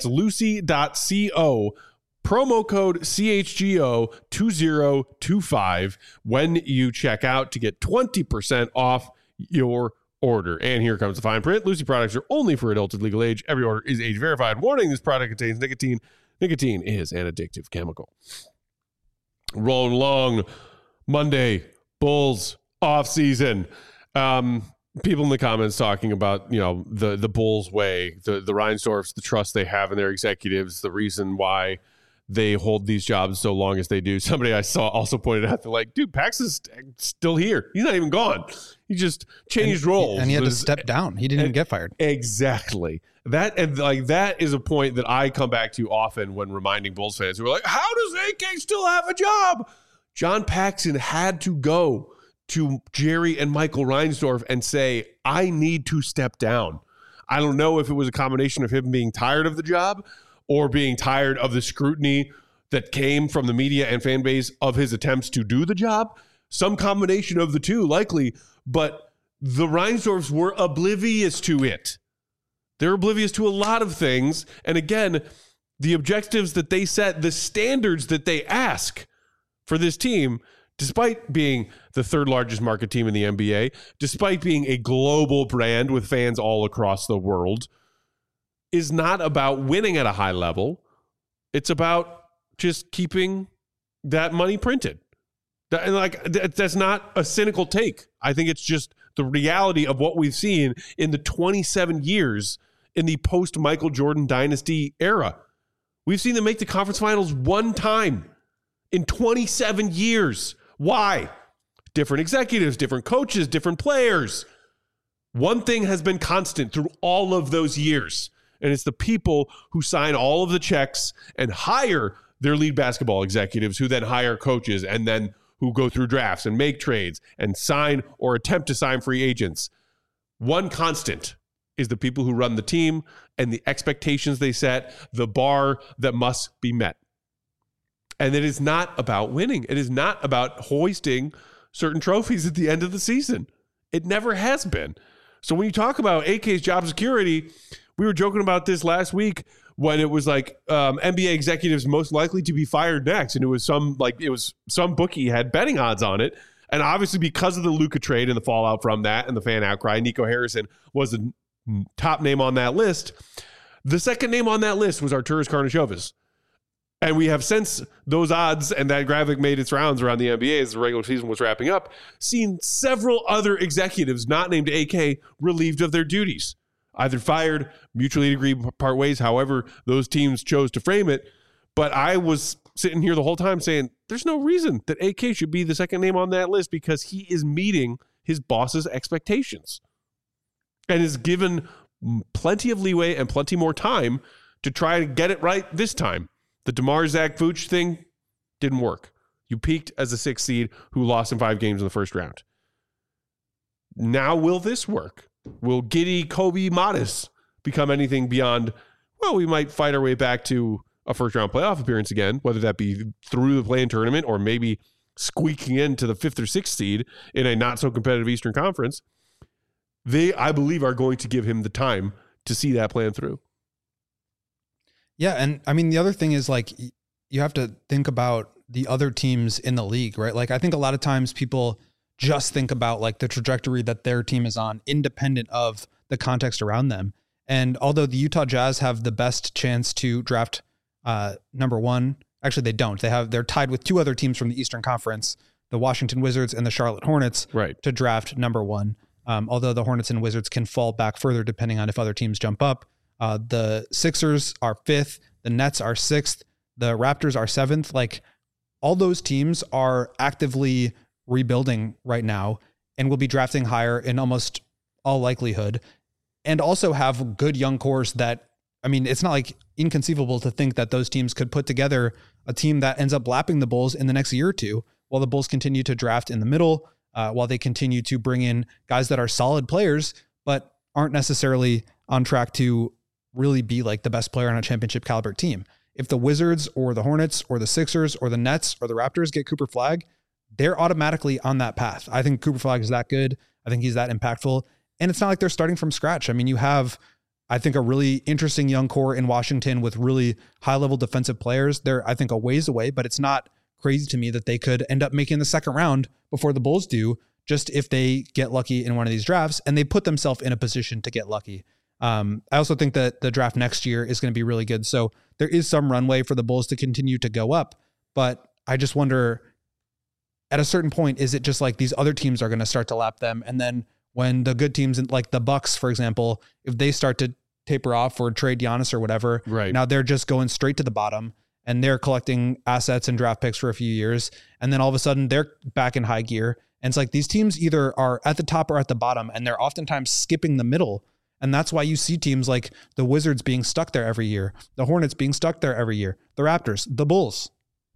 lucy.co, promo code C H G O twenty twenty-five when you check out to get twenty percent off your order. And here comes the fine print. Lucy products are only for adults of legal age. Every order is age verified. Warning, this product contains nicotine. Nicotine is an addictive chemical. Rolling along Monday, Bulls off season. Um, people in the comments talking about, you know, the the Bulls way, the the Reinsdorfs, the trust they have in their executives, the reason why they hold these jobs so long as they do. Somebody I saw also pointed out, they're like, dude, Pax is still here. He's not even gone. He just changed and, roles. And he had to This- step down. He didn't even get fired. Exactly. That and like that is a point that I come back to often when reminding Bulls fans who are like, how does A K still have a job? John Paxson had to go to Jerry and Michael Reinsdorf and say, I need to step down. I don't know if it was a combination of him being tired of the job or being tired of the scrutiny that came from the media and fan base of his attempts to do the job. Some combination of the two, likely, but the Reinsdorfs were oblivious to it. They're oblivious to a lot of things. And again, the objectives that they set, the standards that they ask for this team, despite being the third largest market team in the N B A, despite being a global brand with fans all across the world, is not about winning at a high level. It's about just keeping that money printed. That, and like that, that's not a cynical take. I think it's just the reality of what we've seen in the twenty-seven years in the post-Michael Jordan dynasty era. We've seen them make the conference finals one time in twenty-seven years. Why? Different executives, different coaches, different players. One thing has been constant through all of those years, and it's the people who sign all of the checks and hire their lead basketball executives, who then hire coaches and then who go through drafts and make trades and sign or attempt to sign free agents. One constant is the people who run the team and the expectations they set, the bar that must be met. And it is not about winning. It is not about hoisting certain trophies at the end of the season. It never has been. So when you talk about A K's job security, we were joking about this last week when it was like um, N B A executives most likely to be fired next. And it was some like it was some bookie had betting odds on it. And obviously because of the Luka trade and the fallout from that and the fan outcry, Nico Harrison was the top name on that list. The second name on that list was Arturas Karnisovas. And we have, since those odds and that graphic made its rounds around the N B A as the regular season was wrapping up, seen several other executives not named A K relieved of their duties, either fired, mutually agreed part ways, however those teams chose to frame it. But I was sitting here the whole time saying there's no reason that A K should be the second name on that list, because he is meeting his boss's expectations and is given plenty of leeway and plenty more time to try to get it right this time. The DeMar Zach Vooch thing didn't work. You peaked as a sixth seed who lost in five games in the first round. Now will this work? Will giddy Kobe Modis become anything beyond, well, we might fight our way back to a first-round playoff appearance again, whether that be through the play-in tournament or maybe squeaking into the fifth or sixth seed in a not-so-competitive Eastern Conference. They, I believe, are going to give him the time to see that plan through. Yeah, and I mean, the other thing is, like, you have to think about the other teams in the league, right? Like, I think a lot of times people just think about, like, the trajectory that their team is on, independent of the context around them. And although the Utah Jazz have the best chance to draft uh, number one, actually they don't. They have they're tied with two other teams from the Eastern Conference, the Washington Wizards and the Charlotte Hornets, right, to draft number one. Um, although the Hornets and Wizards can fall back further depending on if other teams jump up. Uh, the Sixers are fifth, the Nets are sixth, the Raptors are seventh. Like, all those teams are actively rebuilding right now and will be drafting higher in almost all likelihood, and also have good young cores that, I mean, it's not like inconceivable to think that those teams could put together a team that ends up lapping the Bulls in the next year or two, while the Bulls continue to draft in the middle, uh, while they continue to bring in guys that are solid players, but aren't necessarily on track to really be like the best player on a championship caliber team. If the Wizards or the Hornets or the Sixers or the Nets or the Raptors get Cooper Flagg, they're automatically on that path. I think Cooper Flagg is that good. I think he's that impactful. And it's not like they're starting from scratch. I mean, you have, I think, a really interesting young core in Washington with really high level defensive players. They're, I think, a ways away, but it's not crazy to me that they could end up making the second round before the Bulls do, just if they get lucky in one of these drafts and they put themselves in a position to get lucky. Um, I also think that the draft next year is going to be really good. So there is some runway for the Bulls to continue to go up, but I just wonder, at a certain point, is it just like these other teams are going to start to lap them? And then when the good teams, like the Bucks, for example, if they start to taper off or trade Giannis or whatever, right, now they're just going straight to the bottom and they're collecting assets and draft picks for a few years. And then all of a sudden they're back in high gear. And it's like these teams either are at the top or at the bottom, and they're oftentimes skipping the middle. And that's why you see teams like the Wizards being stuck there every year, the Hornets being stuck there every year, the Raptors, the Bulls.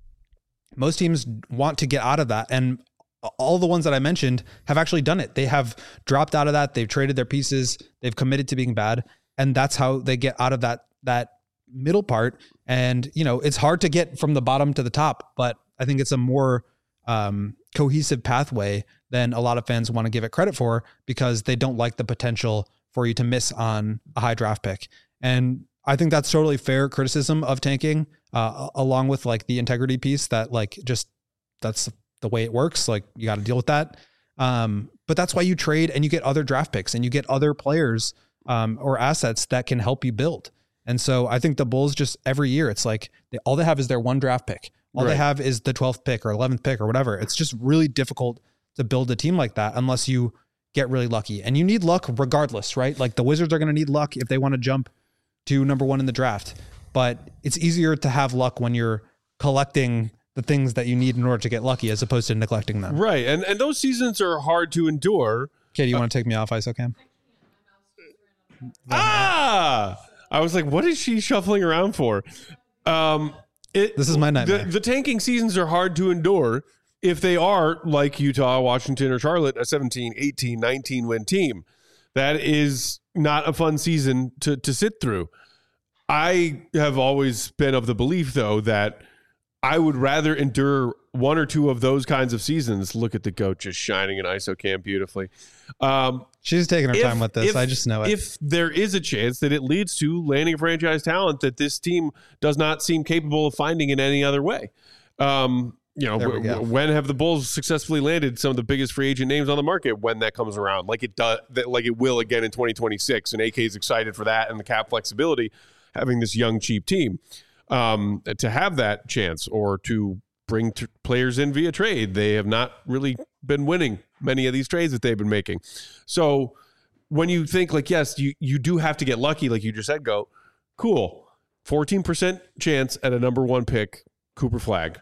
Most teams want to get out of that. And all the ones that I mentioned have actually done it. They have dropped out of that. They've traded their pieces. They've committed to being bad. And that's how they get out of that, that middle part. And, you know, it's hard to get from the bottom to the top, but I think it's a more um, cohesive pathway than a lot of fans want to give it credit for, because they don't like the potential for you to miss on a high draft pick. And I think that's totally fair criticism of tanking, uh, along with like the integrity piece that like, just that's the way it works. Like, you got to deal with that. Um, but that's why you trade and you get other draft picks and you get other players um, or assets that can help you build. And so I think the Bulls just every year, it's like they, all they have is their one draft pick. All right. they have is the twelfth pick or eleventh pick or whatever. It's just really difficult to build a team like that unless you get really lucky. And you need luck regardless, right? Like the Wizards are going to need luck if they want to jump to number one in the draft. But it's easier to have luck when you're collecting the things that you need in order to get lucky as opposed to neglecting them. Right. And and those seasons are hard to endure. Okay, do you uh, want to take me off, ISOCAM? Ah! I was like, what is she shuffling around for? Um, it, this is my nightmare. The, the tanking seasons are hard to endure if they are like Utah, Washington, or Charlotte, a seventeen, eighteen, nineteen win team. That is not a fun season to to sit through. I have always been of the belief, though, that I would rather endure one or two of those kinds of seasons. Look at the goat just shining in ISOCAM beautifully. Um, She's taking her if, time with this. If, I just know it. If there is a chance that it leads to landing franchise talent that this team does not seem capable of finding in any other way. Um, you know, w- w- when have the Bulls successfully landed some of the biggest free agent names on the market when that comes around? Like it does, like it will again in twenty twenty-six. And A K is excited for that and the cap flexibility, having this young, cheap team. Um, to have that chance or to bring t- players in via trade. They have not really been winning many of these trades that they've been making. So when you think like, yes, you, you do have to get lucky, like you just said, go, cool. fourteen percent chance at a number one pick, Cooper Flagg,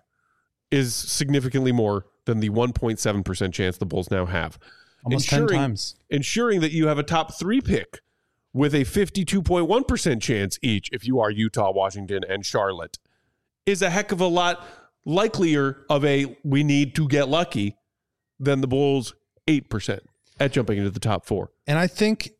is significantly more than the one point seven percent chance the Bulls now have. Almost ensuring, ten times. Ensuring that you have a top three pick with a fifty-two point one percent chance each, if you are Utah, Washington, and Charlotte, is a heck of a lot likelier of a we need to get lucky than the Bulls' eight percent at jumping into the top four. And I think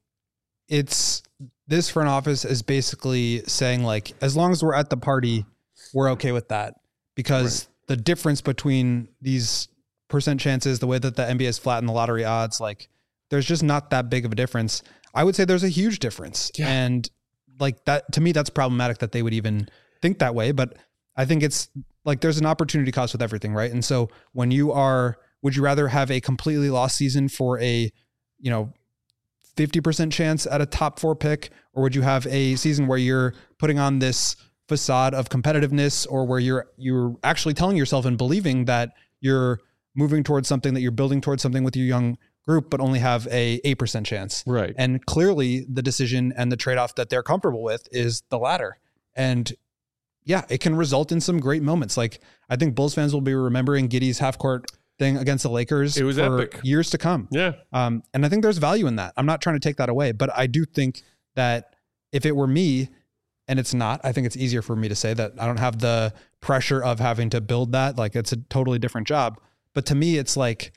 it's this front office is basically saying, like, as long as we're at the party, we're okay with that. Because right. the difference between these percent chances, the way that the N B A has flattened the lottery odds, like, there's just not that big of a difference. I would say there's a huge difference. Yeah. And like that, to me, that's problematic that they would even think that way. But I think it's like, there's an opportunity cost with everything. Right. And so when you are, would you rather have a completely lost season for a, you know, fifty percent chance at a top four pick, or would you have a season where you're putting on this facade of competitiveness, or where you're, you're actually telling yourself and believing that you're moving towards something, that you're building towards something with your young group, but only have a eight percent chance. Right. And clearly the decision and the trade-off that they're comfortable with is the latter. And yeah, it can result in some great moments. Like, I think Bulls fans will be remembering Giddey's half-court thing against the Lakers it was for epic. years to come. Yeah. Um, and I think there's value in that. I'm not trying to take that away, but I do think that if it were me, and it's not, I think it's easier for me to say that I don't have the pressure of having to build that. Like, it's a totally different job. But to me, it's like,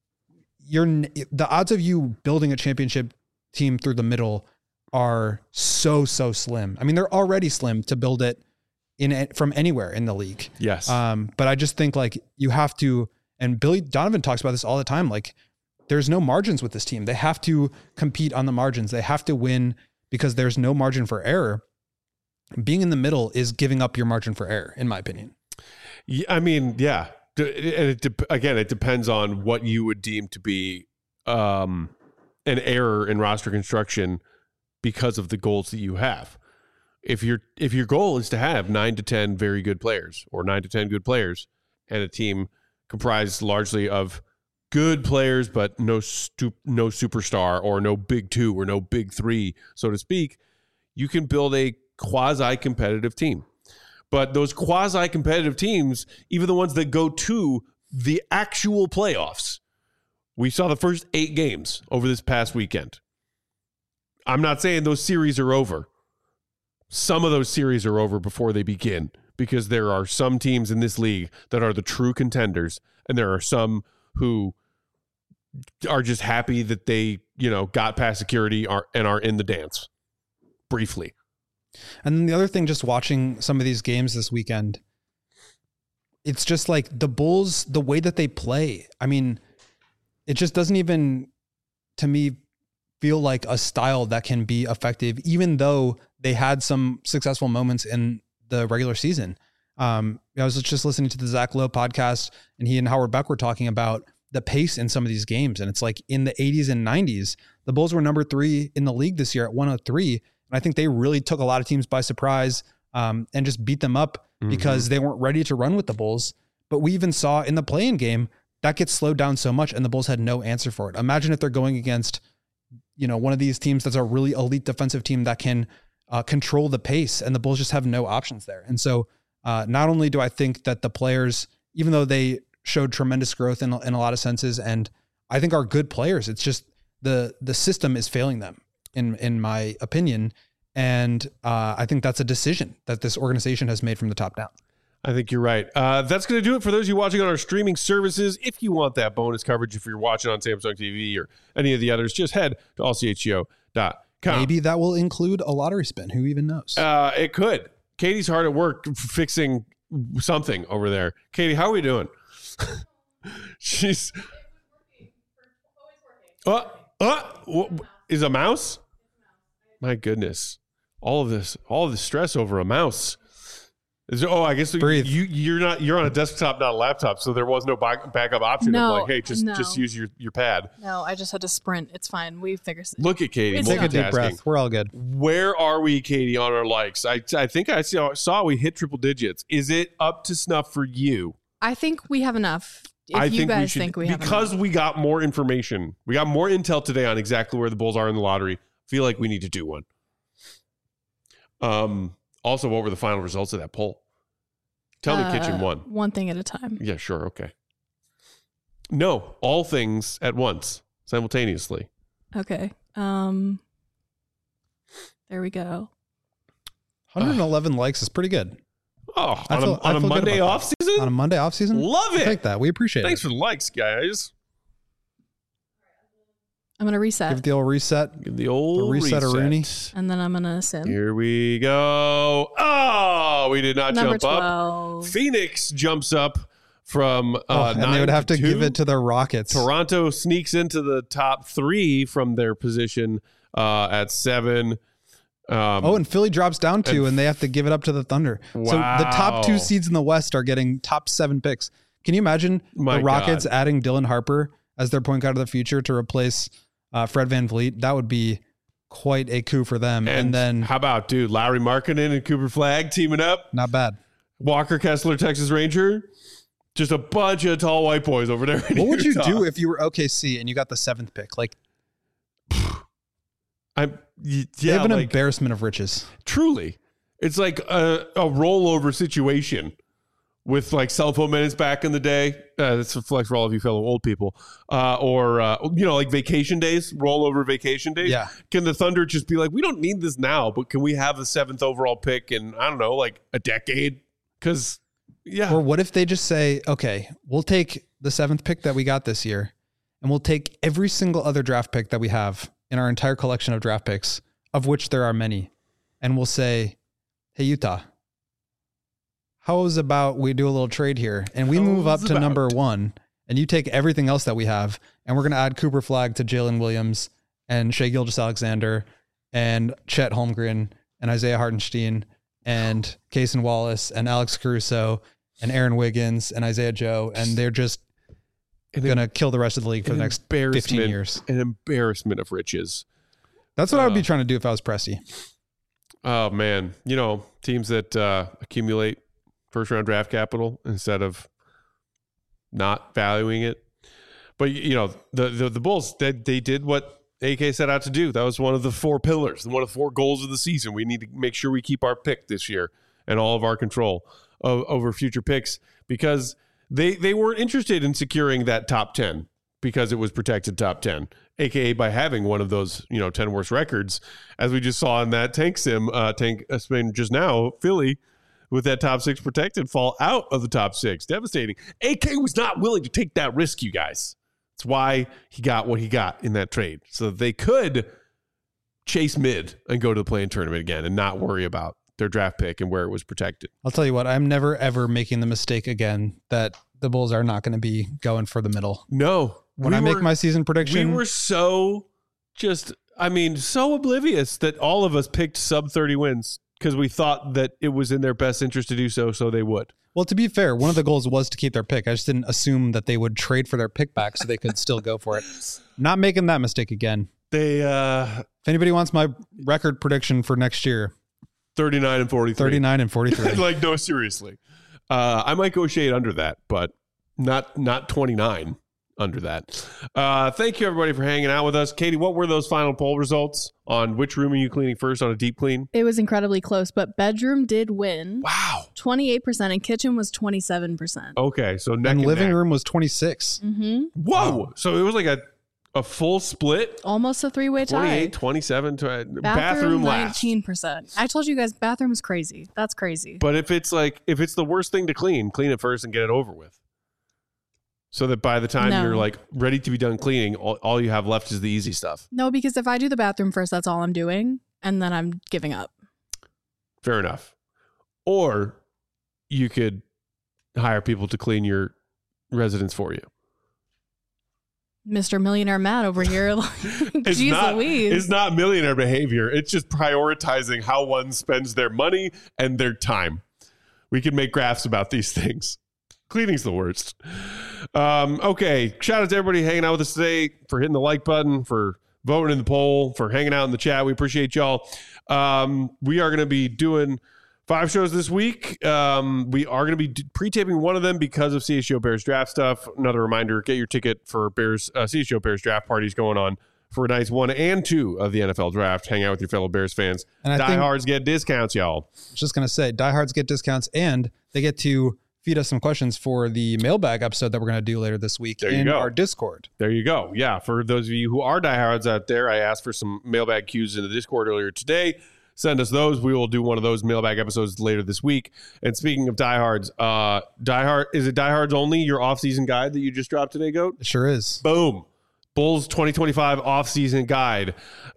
you're the odds of you building a championship team through the middle are so, so slim. I mean, they're already slim to build it in it from anywhere in the league. Yes. Um, but I just think, like, you have to, and Billy Donovan talks about this all the time. Like, there's no margins with this team. They have to compete on the margins. They have to win because there's no margin for error. Being in the middle is giving up your margin for error, in my opinion. Yeah, I mean, yeah. And it de- again, it depends on what you would deem to be um, an error in roster construction because of the goals that you have. If your if your goal is to have nine to ten very good players, or nine to ten good players, and a team comprised largely of good players but no stu- no superstar, or no big two, or no big three, so to speak, you can build a quasi-competitive team. But those quasi-competitive teams, even the ones that go to the actual playoffs, we saw the first eight games over this past weekend. I'm not saying those series are over. Some of those series are over before they begin, because there are some teams in this league that are the true contenders, and there are some who are just happy that they, you know, got past security are, and are in the dance briefly. And then the other thing, just watching some of these games this weekend, it's just like the Bulls, the way that they play. I mean, it just doesn't even, to me, feel like a style that can be effective, even though they had some successful moments in the regular season. Um, I was just listening to the Zach Lowe podcast, and he and Howard Beck were talking about the pace in some of these games. And it's like in the eighties and nineties, the Bulls were number three in the league this year at one oh three. And I think they really took a lot of teams by surprise um, and just beat them up mm-hmm. because they weren't ready to run with the Bulls. But we even saw in the play-in game, that gets slowed down so much and the Bulls had no answer for it. Imagine if they're going against, you know, one of these teams that's a really elite defensive team that can uh, control the pace, and the Bulls just have no options there. And so uh, not only do I think that the players, even though they showed tremendous growth in, in a lot of senses, and I think are good players, it's just the the system is failing them, in in my opinion. And uh, I think that's a decision that this organization has made from the top down. I think you're right. Uh, that's going to do it for those of you watching on our streaming services. If you want that bonus coverage, if you're watching on Samsung T V or any of the others, just head to all c h g o dot com. Maybe that will include a lottery spin. Who even knows? Uh, it could. Katie's hard at work fixing something over there. Katie, how are we doing? She's... Uh, uh, is a mouse? My goodness. All of this, all of this stress over a mouse. Is there, oh, I guess Breathe. you you're not you're on a desktop, not a laptop, so there was no back, backup option no, of like, hey, just no. just use your, your pad. No, I just had to sprint. It's fine. We figured it. Look at Katie. It's Take a deep multitasking. breath. We're all good. Where are we, Katie, on our likes? I I think I saw, saw we hit triple digits. Is it up to snuff for you? I think we have enough. If I you think guys we should, think we have because enough. we got more information. We got more intel today on exactly where the Bulls are in the lottery. Feel like we need to do one. Um. Also, what were the final results of that poll? Tell me, Uh, Kitchen won. One thing at a time. Yeah, sure. Okay. No, all things at once, simultaneously. Okay. Um. There we go. one hundred eleven likes is pretty good. Oh, I on feel- a, I on a feel good Monday about off that. season? On a Monday off season? Love it. Take that. We appreciate Thanks it. for the likes, guys. I'm gonna reset, Give it the old reset. Give the old The reset reset. of Rooney. and then I'm gonna sim. Here we go. Oh, we did not Number jump up. twelve. Phoenix jumps up from uh, Oh, and nine they would have to two. give it to the Rockets. Toronto sneaks into the top three from their position uh, at seven. Um, Oh, and Philly drops down two, and- and they have to give it up to the Thunder. So the top Wow. two seeds in the West are getting top seven picks. Can you imagine My the Rockets God. adding Dylan Harper as their point guard of the future to replace uh, Fred VanVleet? That would be quite a coup for them. And, and then, how about, dude, Lowry Markkanen and Cooper Flagg teaming up? not bad. Walker Kessler, Texas Ranger. Just a bunch of tall white boys over there. in What would you Utah. do if you were O K C and you got the seventh pick? Like, I'm, y- they yeah, have an like, embarrassment of riches. truly. It's like a, a rollover situation with like cell phone minutes back in the day. Uh, that's a flex for all of you fellow old people. Uh, or, uh, you know, like vacation days, rollover vacation days. Yeah. Can the Thunder just be like, we don't need this now, but can we have the seventh overall pick in, I don't know, like a decade? Because, yeah. Or what if they just say, okay, we'll take the seventh pick that we got this year, and we'll take every single other draft pick that we have in our entire collection of draft picks, of which there are many, and we'll say, hey, Utah, how's about we do a little trade here, and we move up How's to about- number one, and you take everything else that we have, and we're going to add Cooper Flagg to Jalen Williams and Shai Gilgeous-Alexander and Chet Holmgren and Isaiah Hartenstein and Cason Wallace and Alex Caruso and Aaron Wiggins and Isaiah Joe, and they're just And going to kill the rest of the league for an the next embarrassment- fifteen years. An embarrassment of riches. That's what I would be Uh, trying to do if I was Presti. Oh, man. You know, teams that uh, accumulate first round draft capital instead of not valuing it. But, you know, the the, the Bulls, they, they did what A K set out to do. That was one of the four pillars, one of the four goals of the season. We need to make sure we keep our pick this year and all of our control of, over future picks, because they, they weren't interested in securing that top ten because it was protected top ten, A K A by having one of those, you know, ten worst records, as we just saw in that tank sim, uh, tank uh, spin just now, Philly, with that top six protected, fall out of the top six. Devastating. A K was not willing to take that risk, you guys. That's why he got what he got in that trade. So that they could chase mid and go to the play-in tournament again and not worry about their draft pick and where it was protected. I'll tell you what, I'm never, ever making the mistake again that the Bulls are not going to be going for the middle. No. When we I make were- my season prediction, We were so just, I mean, so oblivious that all of us picked sub thirty wins because we thought that it was in their best interest to do so, so they would. well, to be fair, one of the goals was to keep their pick. I just didn't assume that they would trade for their pick back so they could still go for it. Not making that mistake again. They uh, If anybody wants my record prediction for next year, thirty-nine and forty-three. thirty-nine and forty-three. Like, no, seriously. Uh, I might go shade under that, but not not twenty-nine under that. Uh, thank you, everybody, for hanging out with us. Katie, what were those final poll results on which room are you cleaning first on a deep clean? It was incredibly close, but bedroom did win. Wow. twenty-eight percent and kitchen was twenty-seven percent. Okay, so neck And and living neck. room was twenty-six. Mm-hmm. Whoa. Wow. So it was like a, a full split? Almost a three-way tie. twenty-eight, twenty-seven, to, uh, Bathroom, bathroom last. nineteen percent. I told you guys bathroom is crazy. That's crazy. But if it's like, if it's the worst thing to clean, clean it first and get it over with. So that by the time No. you're like ready to be done cleaning, all, all you have left is the easy stuff. No, because if I do the bathroom first, that's all I'm doing. And then I'm giving up. Fair enough. Or you could hire people to clean your residence for you. Mister Millionaire Matt over here. Like, It's geez not, Louise. it's not millionaire behavior. It's just prioritizing how one spends their money and their time. We can make graphs about these things. Cleaning's the worst. Um, okay. Shout out to everybody hanging out with us today, for hitting the like button, for voting in the poll, for hanging out in the chat. We appreciate y'all. Um, we are going to be doing five shows this week. Um, we are going to be d- pre-taping one of them because of C H G O Bears draft stuff. Another reminder, get your ticket for Bears uh, C H G O Bears draft parties going on for nights one and two of the N F L draft. Hang out with your fellow Bears fans. And I think- Diehards get discounts, y'all. I was just going to say, diehards get discounts and they get to feed us some questions for the mailbag episode that we're going to do later this week There you in go. our Discord. There you go. Yeah, for those of you who are diehards out there, I asked for some mailbag cues in the Discord earlier today. Send us those. We will do one of those mailbag episodes later this week. And speaking of diehards, uh, diehard is it diehards only? Your off-season guide that you just dropped today, Goat? It sure is. Boom. Bulls twenty twenty-five off-season guide.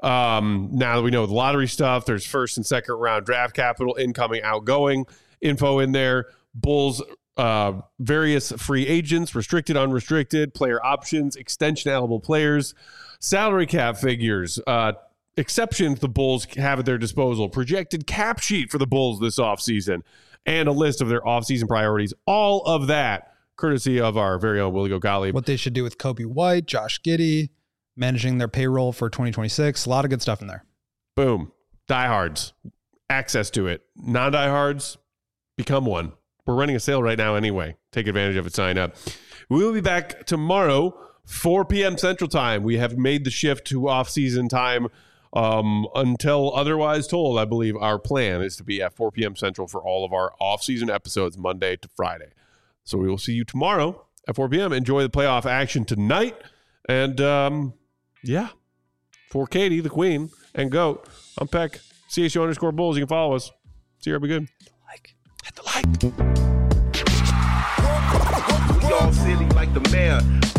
Um, now that we know the lottery stuff, there's first and second round draft capital, incoming, outgoing info in there. Bulls uh, various free agents, restricted, unrestricted, player options, extension eligible players, salary cap figures, uh, exceptions the Bulls have at their disposal, projected cap sheet for the Bulls this offseason, and a list of their offseason priorities. All of that courtesy of our very own Willie Gottlieb. What they should do with Kobe White, Josh Giddey, managing their payroll for twenty twenty-six. A lot of good stuff in there. Boom. Diehards. Access to it. Non-diehards, become one. We're running a sale right now anyway. Take advantage of it. Sign up. We will be back tomorrow, four p.m. Central Time. We have made the shift to off-season time um, until otherwise told. I believe our plan is to be at four p.m. Central for all of our off-season episodes, Monday to Friday. So we will see you tomorrow at four p.m. Enjoy the playoff action tonight. And, um, yeah, for Katie, the queen, and Goat, I'm Peck, C H O underscore Bulls. You can follow us. See you. Be good. Like. Hit the like. We all silly like the mayor.